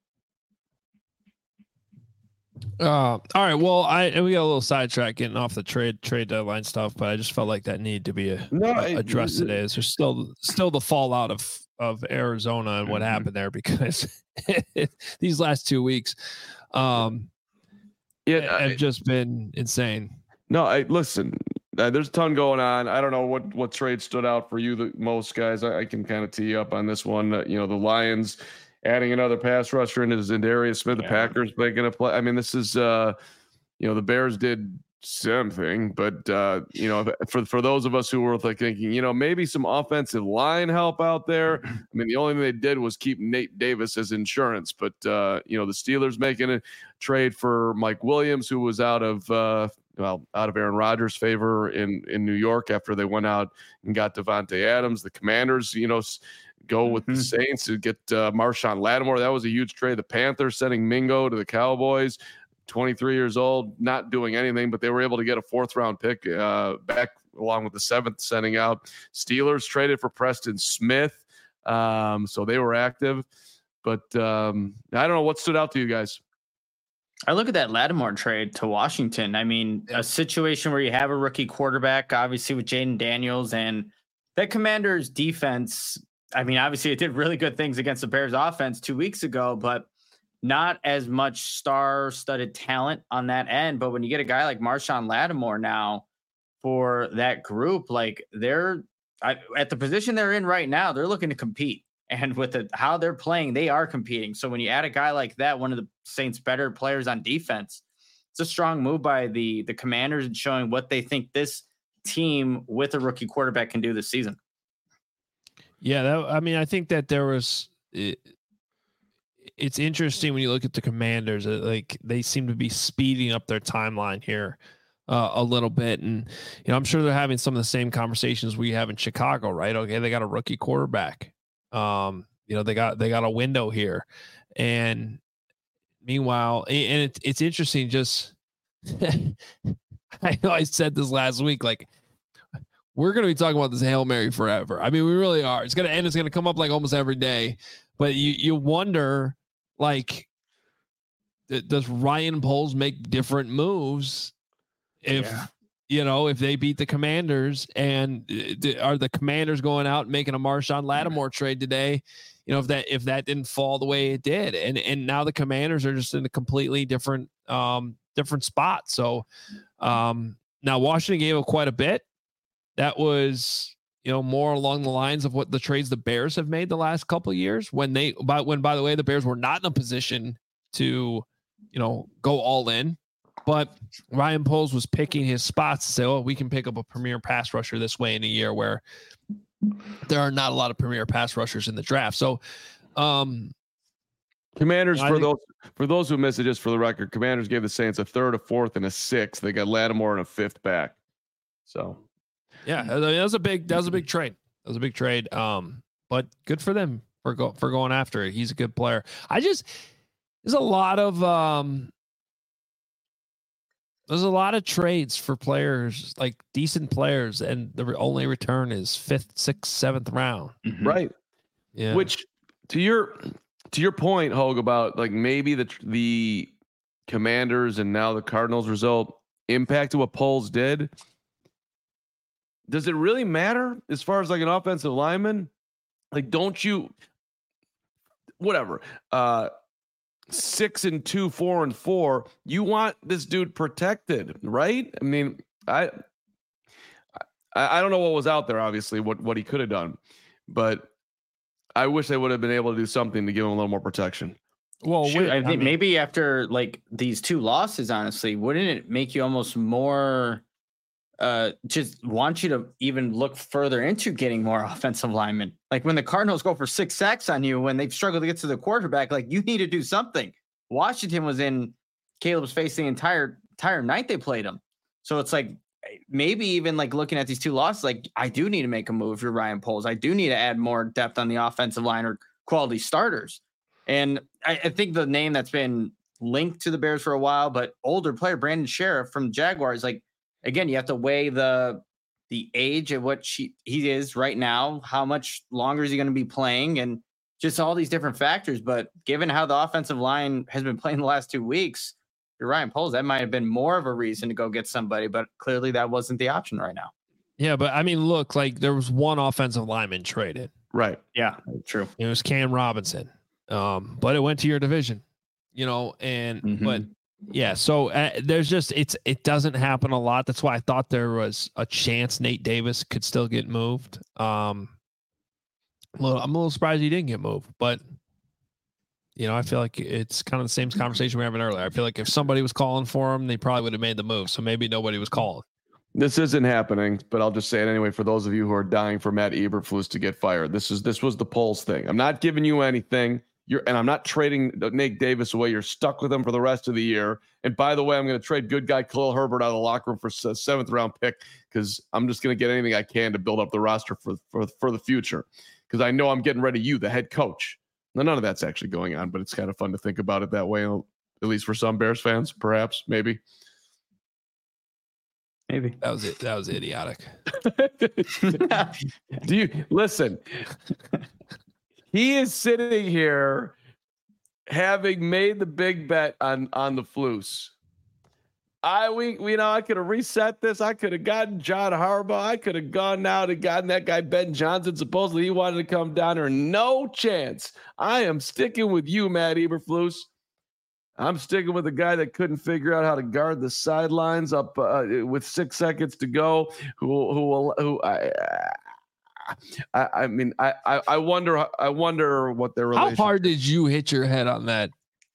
Uh, all right. Well, I, we got a little sidetrack getting off the trade, trade deadline stuff, but I just felt like that needed to be a, no, a, addressed today. There's still, still the fallout of, of Arizona and what mm-hmm. happened there, because these last two weeks, um, Yeah, have just been insane. No, I listen. Uh, there's a ton going on. I don't know what what trade stood out for you the most, guys. I, I can kind of tee up on this one. Uh, you know, the Lions adding another pass rusher into Za'Darius Smith. Yeah. The Packers making a play. I mean, this is, uh, you know, the Bears did something, but uh, you know, for for those of us who were like thinking, you know, maybe some offensive line help out there. I mean, the only thing they did was keep Nate Davis as insurance, but uh, you know, the Steelers making a trade for Mike Williams, who was out of uh, well, out of Aaron Rodgers' favor in in New York after they went out and got Devontae Adams. The Commanders, you know, go with mm-hmm. the Saints to get uh, Marshawn Lattimore. That was a huge trade. The Panthers sending Mingo to the Cowboys. twenty-three years old, not doing anything, but they were able to get a fourth round pick uh, back along with the seventh sending out. Steelers traded for Preston Smith. Um, so they were active, but um, I don't know what stood out to you guys. I look at that Lattimore trade to Washington. I mean, a situation where you have a rookie quarterback, obviously with Jaden Daniels, and that Commanders defense. I mean, obviously it did really good things against the Bears offense two weeks ago, but not as much star-studded talent on that end. But when you get a guy like Marshawn Lattimore now for that group, like they're I, at the position they're in right now, they're looking to compete. And with the, how they're playing, they are competing. So when you add a guy like that, one of the Saints' better players on defense, it's a strong move by the, the Commanders and showing what they think this team with a rookie quarterback can do this season. Yeah, that, I mean, I think that there was it, – it's interesting when you look at the Commanders, uh, like they seem to be speeding up their timeline here uh, a little bit. And, you know, I'm sure they're having some of the same conversations we have in Chicago, right? Okay. They got a rookie quarterback. Um, you know, they got, they got a window here. And meanwhile, and it, it's interesting. Just, I know I said this last week, like we're going to be talking about this Hail Mary forever. I mean, we really are. It's going to end. It's going to come up like almost every day. But you you wonder, like, th- does Ryan Poles make different moves if yeah. you know if they beat the Commanders, and th- are the Commanders going out and making a Marshawn Lattimore trade today? You know, if that if that didn't fall the way it did, and and now the Commanders are just in a completely different um different spot. So um, now Washington gave up quite a bit. That was, you know, more along the lines of what the trades the Bears have made the last couple of years when they, by when, by the way, the Bears were not in a position to, you know, go all in, but Ryan Poles was picking his spots to say, oh, we can pick up a premier pass rusher this way in a year where there are not a lot of premier pass rushers in the draft. So, um, Commanders, I for think, those for those who missed it, just for the record, Commanders gave the Saints a third, a fourth, and a sixth. They got Lattimore and a fifth back. So. Yeah, that was a big that was a big trade. That was a big trade. Um, but good for them for go for going after it. He's a good player. I just there's a lot of um there's a lot of trades for players, like decent players, and the only return is fifth, sixth, seventh round. Mm-hmm. Right. Yeah. Which to your to your point, Hogue, about like maybe the the Commanders and now the Cardinals result impacted what Poles did. Does it really matter as far as like an offensive lineman? Like, don't you, whatever, uh, six and two, four and four, you want this dude protected, right? I mean, I, I, I don't know what was out there, obviously, what, what he could have done, but I wish they would have been able to do something to give him a little more protection. Well, Shoot, I think I mean, maybe after like these two losses, honestly, wouldn't it make you almost more uh just want you to even look further into getting more offensive linemen? Like when the Cardinals go for six sacks on you when they've struggled to get to the quarterback, like you need to do something. Washington was in Caleb's face the entire entire night they played him. So it's like maybe even like looking at these two losses, like I do need to make a move for Ryan Poles. I do need to add more depth on the offensive line or quality starters. And I, I think the name that's been linked to the Bears for a while, but older player Brandon Sheriff from Jaguars, like again, you have to weigh the the age of what she, he is right now. How much longer is he going to be playing? And just all these different factors. But given how the offensive line has been playing the last two weeks, you're Ryan Poles, that might have been more of a reason to go get somebody. But clearly that wasn't the option right now. Yeah, but I mean, look, like there was one offensive lineman traded. Right. Yeah, true. It was Cam Robinson. Um, but it went to your division, you know, and mm-hmm. but yeah, so uh, there's just it's it doesn't happen a lot. That's why I thought there was a chance Nate Davis could still get moved. Um, a little, I'm a little surprised he didn't get moved, but you know, I feel like it's kind of the same conversation we were having earlier. I feel like if somebody was calling for him, they probably would have made the move. So maybe nobody was calling. This isn't happening, but I'll just say it anyway. For those of you who are dying for Matt Eberflus to get fired, this is this was the Poles thing. I'm not giving you anything. You're, and I'm not trading Nate Davis away. You're stuck with him for the rest of the year. And by the way, I'm going to trade good guy Khalil Herbert out of the locker room for a seventh round pick because I'm just going to get anything I can to build up the roster for for, for the future because I know I'm getting rid of you, the head coach. Now, none of that's actually going on, but it's kind of fun to think about it that way, at least for some Bears fans, perhaps, maybe. Maybe. That was it. That was idiotic. Do you listen? He is sitting here having made the big bet on, on the Flus. I we, we you know I could have reset this. I could have gotten John Harbaugh. I could have gone now to gotten that guy Ben Johnson. Supposedly he wanted to come down here. No chance. I am sticking with you, Matt Eberflus. I'm sticking with the guy that couldn't figure out how to guard the sidelines up uh, with six seconds to go. Who who will who I. I, I mean, I, I wonder, I wonder what their relationship. How hard did you hit your head on that?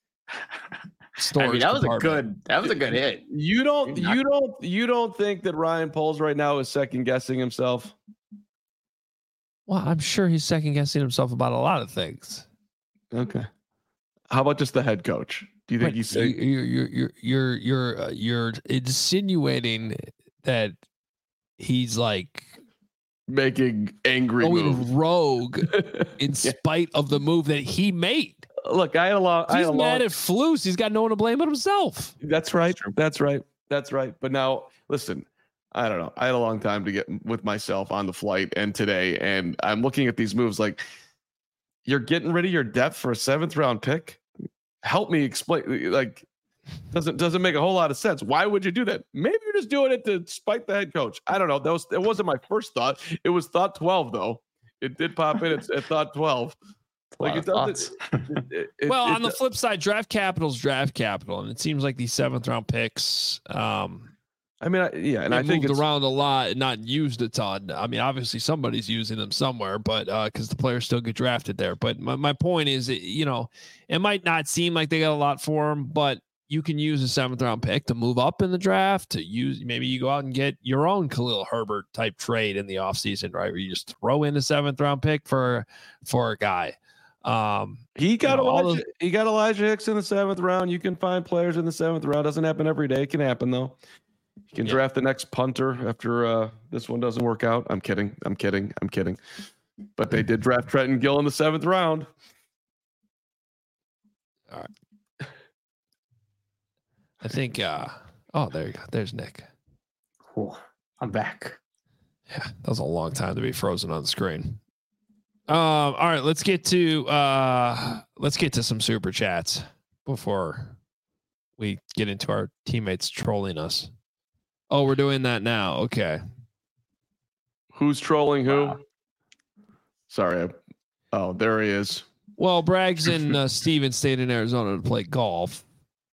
I mean, that was a good, that was a good hit. You don't, you don't, you don't think that Ryan Poles right now is second guessing himself? Well, I'm sure he's second guessing himself about a lot of things. Okay. How about just the head coach? Do you think Wait, he's saying you're you're you're you're you're uh, you're insinuating that he's like making angry going moves. rogue in yeah. spite of the move that he made? Look, I had a lot. He's I had mad long, at Flus. He's got no one to blame but himself. That's right. That's right. That's right. But now, listen, I don't know. I had a long time to get with myself on the flight and today, and I'm looking at these moves like, you're getting rid of your depth for a seventh round pick. Help me explain. Like, doesn't doesn't make a whole lot of sense. Why would you do that? Maybe you're just doing it to spite the head coach. I don't know. That was it wasn't my first thought. It was thought twelve though. It did pop in at, at thought twelve. Like it doesn't. It, it, it, well, it, on the flip side, draft capital's draft capital, and it seems like these seventh round picks. Um, I mean, I, yeah, and I think moved it's around a lot and not used a ton. I mean, obviously somebody's using them somewhere, but uh, because the players still get drafted there. But my, my point is, it, you know, it might not seem like they got a lot for them, but you can use a seventh round pick to move up in the draft. To use maybe you go out and get your own Khalil Herbert type trade in the offseason, right? Where you just throw in a seventh round pick for for a guy. Um, he got you know, Elijah, those, he got Elijah Hicks in the seventh round. You can find players in the seventh round. Doesn't happen every day. It can happen though. You can yeah. draft the next punter after uh, this one doesn't work out. I'm kidding. I'm kidding. I'm kidding. But they did draft Trenton Gill in the seventh round. All right. I think. Uh, oh, there you go. There's Nick. Cool. I'm back. Yeah, that was a long time to be frozen on the screen. Um. All right. Let's get to. Uh. Let's get to some super chats before we get into our teammates trolling us. Oh, we're doing that now. Okay. Who's trolling who? Wow. Sorry. I, oh, there he is. Well, Braggs and uh, Steven stayed in Arizona to play golf.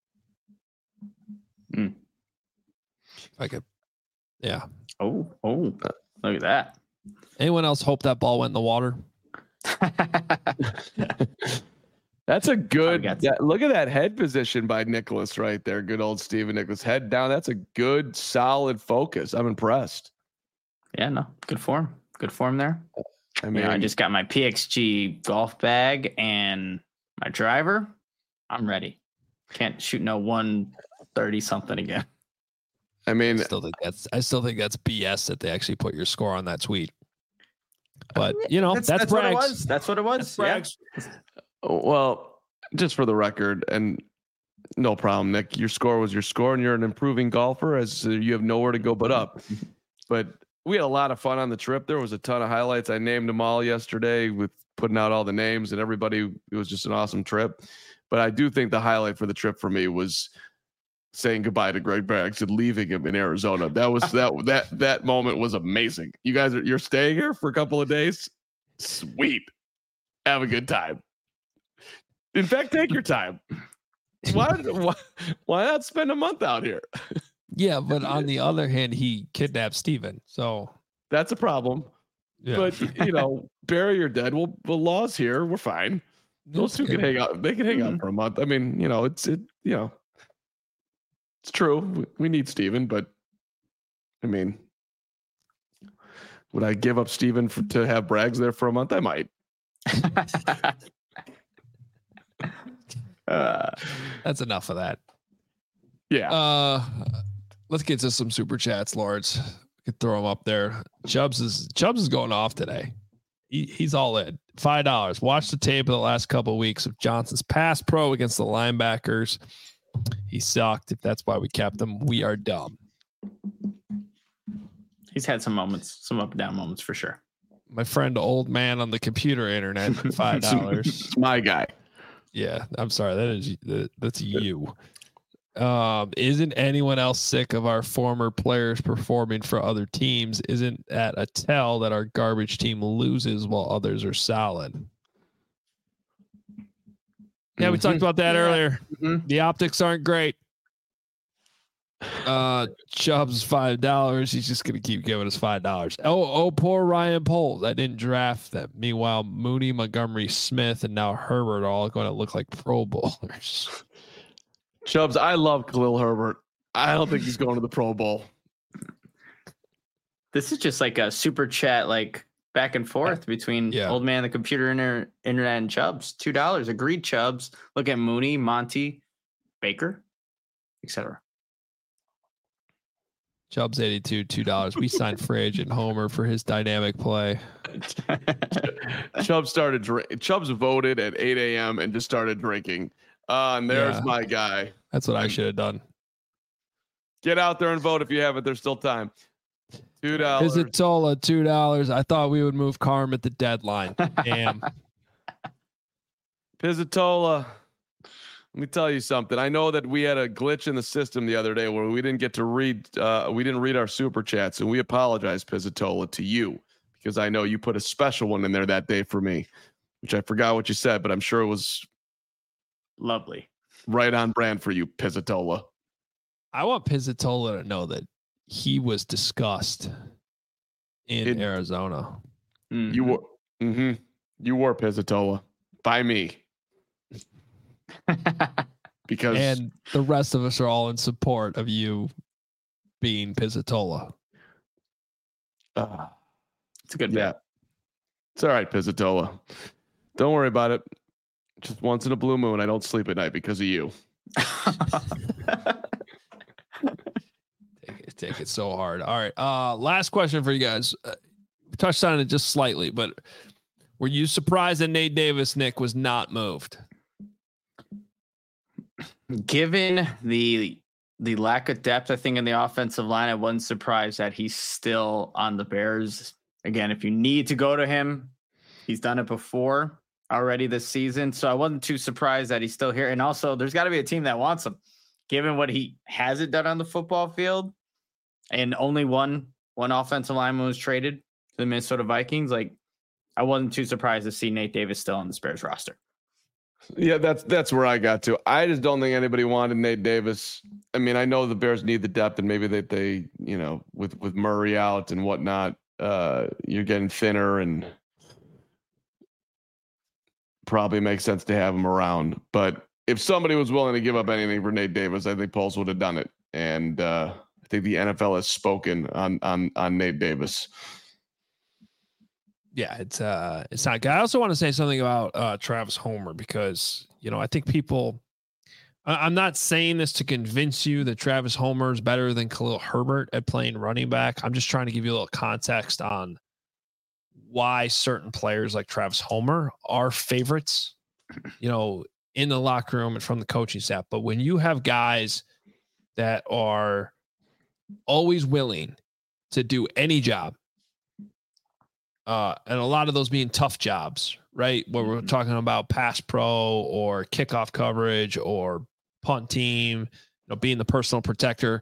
Mm. I could, yeah. Oh, oh, look at that. Anyone else hope that ball went in the water? That's a good that, look at that head position by Nicholas right there. Good old Steven Nicholas. Head down. That's a good, solid focus. I'm impressed. Yeah, no, good form. Good form there. I mean, you know, I just got my P X G golf bag and my driver. I'm ready. Can't shoot no one thirty something again. I mean, I still think that's I still think that's B S that they actually put your score on that tweet. But you know, that's, that's, that's what it was. That's what it was. That's yeah. Well, just for the record, and no problem, Nick. Your score was your score, and you're an improving golfer, as uh, you have nowhere to go but up. But we had a lot of fun on the trip. There was a ton of highlights. I named them all yesterday with putting out all the names, and everybody. It was just an awesome trip. But I do think the highlight for the trip for me was saying goodbye to Greg Braggs and leaving him in Arizona. That was that that that moment was amazing. You guys are you're staying here for a couple of days. Sweet. Have a good time. In fact, take your time. Why, why, why not spend a month out here? Yeah, but on the other hand, he kidnapped Steven. So that's a problem. Yeah. But, you know, bury or dead. Well, the law's here. We're fine. Those two can hang out. They can hang out for a month. I mean, you know, it's, it, you know, it's true. We, we need Steven, but I mean, would I give up Steven for, to have Braggs there for a month? I might. Uh, that's enough of that. Yeah. Uh, let's get to some super chats, Lords. We could throw them up there. Chubbs is Chubbs is going off today. He, he's all in. Five dollars. Watch the tape of the last couple of weeks of Johnson's pass pro against the linebackers. He sucked. If that's why we kept him, we are dumb. He's had some moments, some up and down moments for sure. My friend, old man on the computer internet, five dollars. It's my guy. Yeah, I'm sorry. That is that's you. Um, isn't anyone else sick of our former players performing for other teams? Isn't that a tell that our garbage team loses while others are solid? Yeah, we mm-hmm. talked about that yeah. earlier. Mm-hmm. The optics aren't great. Uh, Chubb's five dollars. He's just gonna keep giving us five dollars. Oh, oh, poor Ryan Poles. I didn't draft them. Meanwhile, Mooney, Montgomery, Smith, and now Herbert are all going to look like Pro Bowlers. Chubbs, I love Khalil Herbert. I don't think he's going to the Pro Bowl. This is just like a super chat, like back and forth between yeah. old man, the computer inter- internet, and Chubbs. Two dollars. Agreed, Chubbs. Look at Mooney, Monty, Baker, et cetera. Chubbs eighty-two, two dollars. We signed Fridge and Homer for his dynamic play. Chubbs started drink. Chubbs voted at eight a.m. and just started drinking. Uh, and there's yeah. my guy. That's what I should have done. Get out there and vote if you haven't. There's still time. Two dollars. Pizzatola, two dollars. I thought we would move Carm at the deadline. Damn. Pizzatola. Let me tell you something. I know that we had a glitch in the system the other day where we didn't get to read. Uh, we didn't read our super chats, and we apologize, Pizzatola, to you because I know you put a special one in there that day for me, which I forgot what you said, but I'm sure it was lovely, right on brand for you, Pizzatola. I want Pizzatola to know that he was discussed in it, Arizona. Mm-hmm. You were, mm-hmm, you were Pizzatola by me. Because and the rest of us are all in support of you being Pizzatola. Uh, it's a good yeah. Bet. It's all right, Pizzatola. Don't worry about it. Just once in a blue moon, I don't sleep at night because of you. take, it, take it so hard. All right. Uh, last question for you guys. Uh, we touched on it just slightly, but were you surprised that Nate Davis, Nick, was not moved? Given the the lack of depth, I think, in the offensive line, I wasn't surprised that he's still on the Bears. Again, if you need to go to him, he's done it before already this season. So I wasn't too surprised that he's still here. And also, there's got to be a team that wants him, given what he hasn't done on the football field. And only one one offensive lineman was traded to the Minnesota Vikings. Like, I wasn't too surprised to see Nate Davis still on the Bears roster. Yeah, that's that's where I got to. I just don't think anybody wanted Nate Davis. I mean, I know the Bears need the depth, and maybe they they you know with with Murray out and whatnot, uh, you're getting thinner, and probably makes sense to have him around. But if somebody was willing to give up anything for Nate Davis, I think Poles would have done it. And uh, I think the N F L has spoken on on on Nate Davis. Yeah, it's uh, it's not good. I also want to say something about uh, Travis Homer because, you know, I think people, I, I'm not saying this to convince you that Travis Homer is better than Khalil Herbert at playing running back. I'm just trying to give you a little context on why certain players like Travis Homer are favorites, you know, in the locker room and from the coaching staff. But when you have guys that are always willing to do any job, Uh, and a lot of those being tough jobs, right? Where we're talking about pass pro or kickoff coverage or punt team, you know, being the personal protector.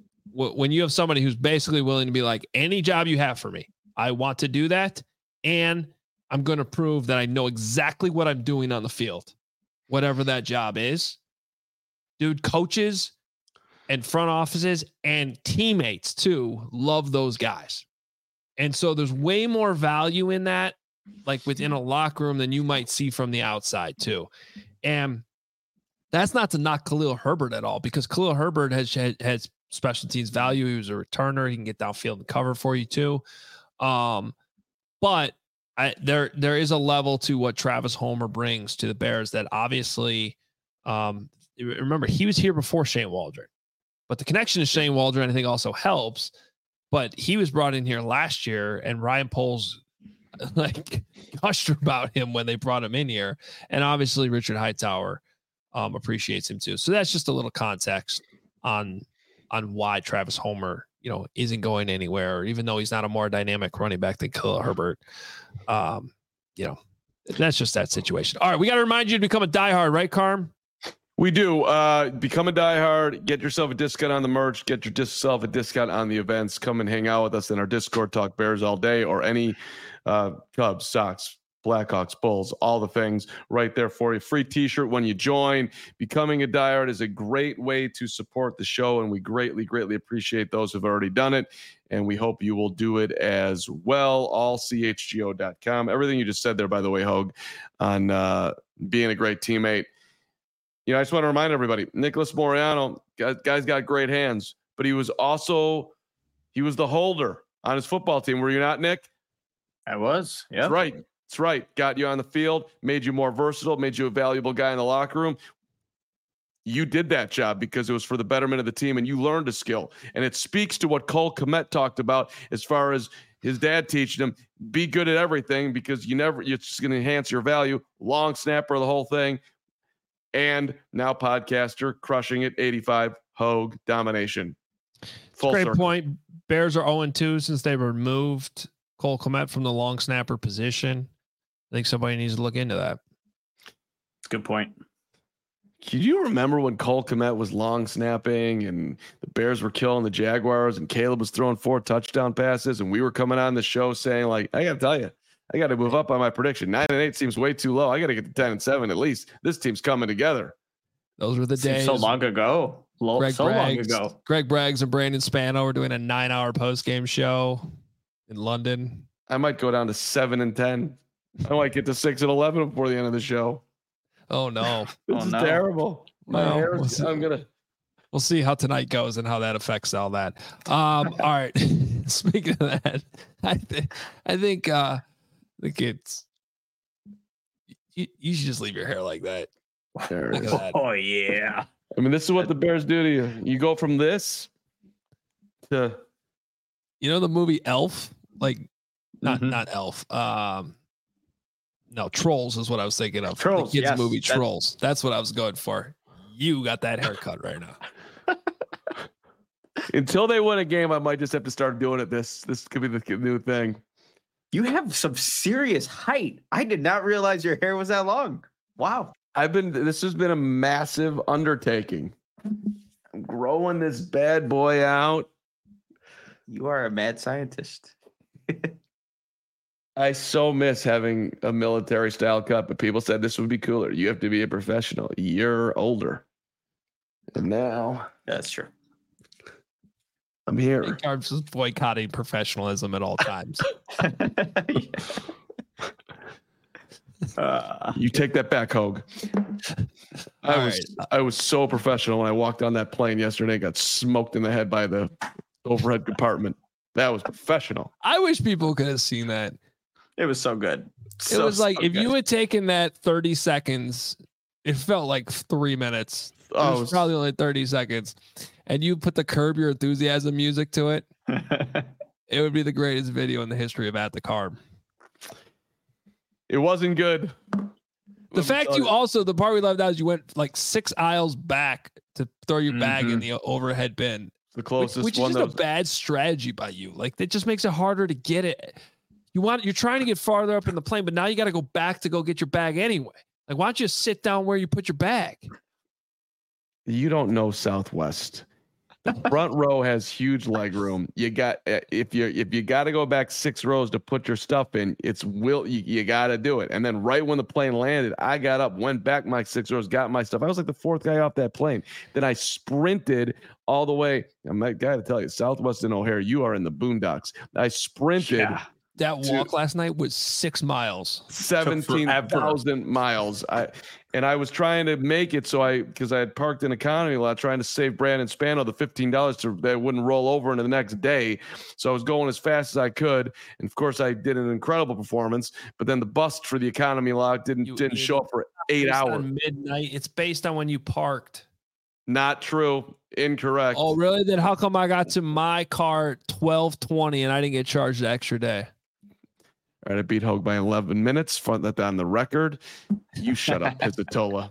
W- when you have somebody who's basically willing to be like, any job you have for me, I want to do that. And I'm going to prove that I know exactly what I'm doing on the field, whatever that job is. Dude, coaches and front offices and teammates too love those guys. And so there's way more value in that, like within a locker room, than you might see from the outside too. And that's not to knock Khalil Herbert at all, because Khalil Herbert has has special teams value. He was a returner. He can get downfield and cover for you too. Um, but I, there there is a level to what Travis Homer brings to the Bears that obviously, um, remember, he was here before Shane Waldron. But the connection to Shane Waldron, I think, also helps. But he was brought in here last year, and Ryan Poles like gushed about him when they brought him in here. And obviously Richard Hightower um, appreciates him too. So that's just a little context on on why Travis Homer, you know, isn't going anywhere, even though he's not a more dynamic running back than Khalil Herbert. Um, you know, that's just that situation. All right, we got to remind you to become a diehard, right, Carm? We do. Uh, become a diehard. Get yourself a discount on the merch. Get yourself a discount on the events. Come and hang out with us in our Discord. Talk Bears all day, or any uh, Cubs, Sox, Blackhawks, Bulls, all the things right there for you. Free T-shirt when you join. Becoming a diehard is a great way to support the show, and we greatly, greatly appreciate those who've already done it. And we hope you will do it as well. all c h g o dot com. Everything you just said there, by the way, Hogue, on uh, being a great teammate. You know, I just want to remind everybody, Nicholas Moreano, guy's got great hands, but he was also, he was the holder on his football team. Were you not, Nick? I was. Yeah. That's right. That's right. Got you on the field, made you more versatile, made you a valuable guy in the locker room. You did that job because it was for the betterment of the team, and you learned a skill. And it speaks to what Cole Kmet talked about as far as his dad teaching him, be good at everything, because you never, it's just going to enhance your value. Long snapper, the whole thing. And now podcaster, crushing it, eighty-five, Hogue, domination. Full Great circle. point. Bears are oh and two since they removed Cole Kmet from the long snapper position. I think somebody needs to look into that. That's a good point. Can you remember when Cole Kmet was long snapping and the Bears were killing the Jaguars and Caleb was throwing four touchdown passes and we were coming on the show saying, like, I got to tell you, I got to move up on my prediction. Nine and eight seems way too low. I got to get to ten and seven at least. This team's coming together. Those were the Seems days. so long ago. Lo- Greg so Braggs, long ago. Greg Braggs and Brandon Spano were doing a nine-hour post-game show in London. I might go down to seven and ten. I might get to six and eleven before the end of the show. Oh no, This Oh, is no. terrible. My Well, hair we'll is, see. I'm gonna. we'll see how tonight goes and how that affects all that. Um, all right. Speaking of that, I think I think uh, the kids. You, you should just leave your hair like that. There it Look is. at that. Oh yeah. I mean, this is what the Bears do to you. You go from this to You know the movie Elf? Like not Mhm. not Elf. Um no, Trolls is what I was thinking of. Trolls, the kids yes, movie that's- Trolls. That's what I was going for. You got that haircut right now. until they win a game. I might just have to start doing it. This this could be the new thing. You have some serious height. I did not realize your hair was that long. Wow. I've been. This has been a massive undertaking. I'm growing this bad boy out. You are a mad scientist. I so miss having a military style cut, but people said this would be cooler. You have to be a professional. You're older, and now That's true. I'm here. Big Carbs is boycotting professionalism at all times. uh, You take that back, Hogue. I All was right. I was so professional when I walked on that plane yesterday and got smoked in the head by the overhead compartment. That was professional. I wish people could have seen that. it was so good. It So, was like so if good. you had taken that thirty seconds, it felt like three minutes. It Oh, was it was- probably only thirty seconds. And you put the Curb Your Enthusiasm music to it, it would be the greatest video in the history of At the Carb. It wasn't good. The fact you also, the part we loved out is you went like six aisles back to throw your bag in Mhm. the overhead bin, the which, closest which is one just that a was, bad strategy by you. Like that just makes it harder to get it. You want, you're trying to get farther up in the plane, but now you got to go back to go get your bag anyway. Like, why don't you sit down where you put your bag? you don't know Southwest. The front row has huge leg room. You got uh, if you if you got to go back six rows to put your stuff in, it's will you, you got to do it. And then right when the plane landed, I got up, went back my six rows, got my stuff. I was like the fourth guy off that plane. Then I sprinted all the way. I'm that guy to tell you, Southwest and O'Hare, you are in the boondocks. I sprinted Yeah. That Dude. walk last night was six miles. seventeen thousand miles. I and I was trying to make it so I because I had parked in economy lot trying to save Brandon Spano the fifteen dollars to that wouldn't roll over into the next day. So I was going as fast as I could, and of course I did an incredible performance. But then the bus for the economy lot didn't You didn't idiot. show up for eight Based hours. on midnight. It's based on when you parked. Not true. Incorrect. Oh, really? Then how come I got to my car at twelve twenty and I didn't get charged the extra day? All right, I beat Hogue by eleven minutes. Front that on the record. You shut up, Pizzatola.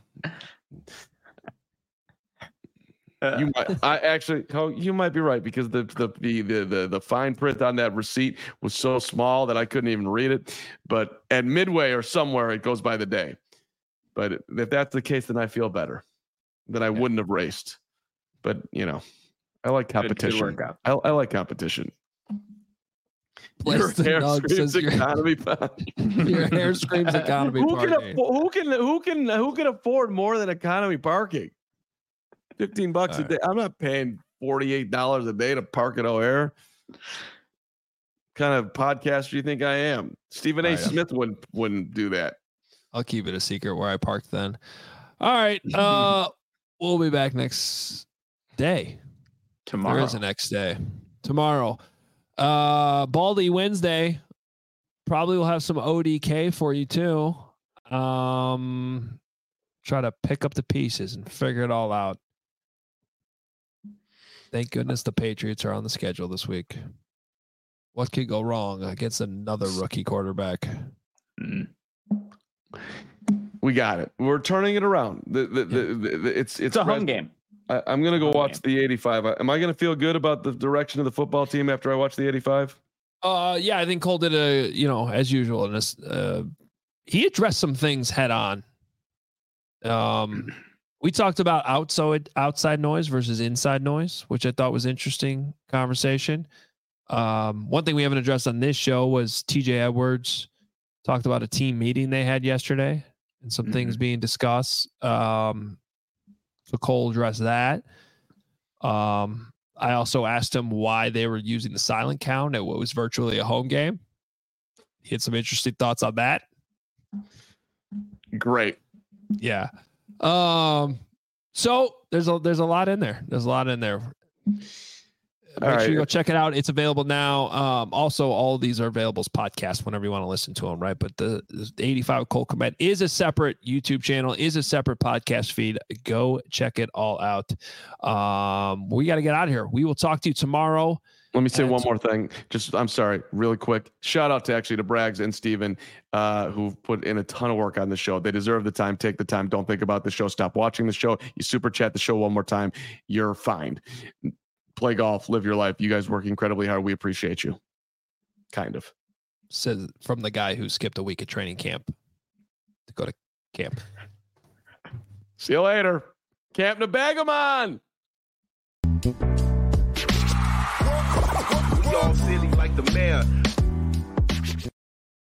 You might, I actually, Hogue, you might be right because the the, the the the the fine print on that receipt was so small that I couldn't even read it. But at Midway or somewhere, it goes by the day. But if that's the case, then I feel better. Then I wouldn't have raced. But you know, I like Good- good competition. workout. I, I like competition. Place Your the hair Nug screams says your, economy. party. your hair screams economy who can party. afford, who can who can who can afford more than economy parking? Fifteen bucks All a day. I'm not paying forty eight dollars a day to park at O'Hare. What kind of podcaster do you think I am? Stephen A. All right, I'm- Smith wouldn't wouldn't do that. I'll keep it a secret where I parked then. All right. Uh, we'll be back next day. Tomorrow. There is a next day. Tomorrow. Uh, Baldy Wednesday. Probably will have some O D K for you too. Um, try to pick up the pieces and figure it all out. Thank goodness the Patriots are on the schedule this week. What could go wrong against another rookie quarterback? Mm. We got it. We're turning it around. The, the, the, the, the- it's it's It's a home res- game. I, I'm going to go watch the eighty-five. Am I going to feel good about the direction of the football team after I watch the eighty-five? Uh, yeah, I think Cole did a, you know, as usual. And uh, he addressed some things head on. Um, we talked about outside outside noise versus inside noise, which I thought was interesting conversation. Um, one thing we haven't addressed on this show was T J Edwards talked about a team meeting they had yesterday and some mm-hmm. things being discussed. Um, so Cole addressed that. Um, I also asked him why they were using the silent count at what was virtually a home game. He had some interesting thoughts on that. Great. Yeah. Um, so there's a, there's a lot in there. There's a lot in there. Make all sure right. you go check it out. It's available now. Um, also, all of these are available as podcasts whenever you want to listen to them, right? But the, the eighty-five Cole Kmet is a separate YouTube channel, is a separate podcast feed. Go check it all out. Um, we got to get out of here. We will talk to you tomorrow. Let me say one more thing. Just, I'm sorry, really quick. Shout out to actually to Braggs and Steven, uh, who've put in a ton of work on the show. They deserve the time. Take the time. Don't think about the show. Stop watching the show. You super chat the show one more time. You're fine. Play golf, live your life. You guys work incredibly hard. We appreciate you. Kind of. Says from the guy who skipped a week of training camp to go to camp. See you later. Camp Nebagamon. We all silly like the mayor.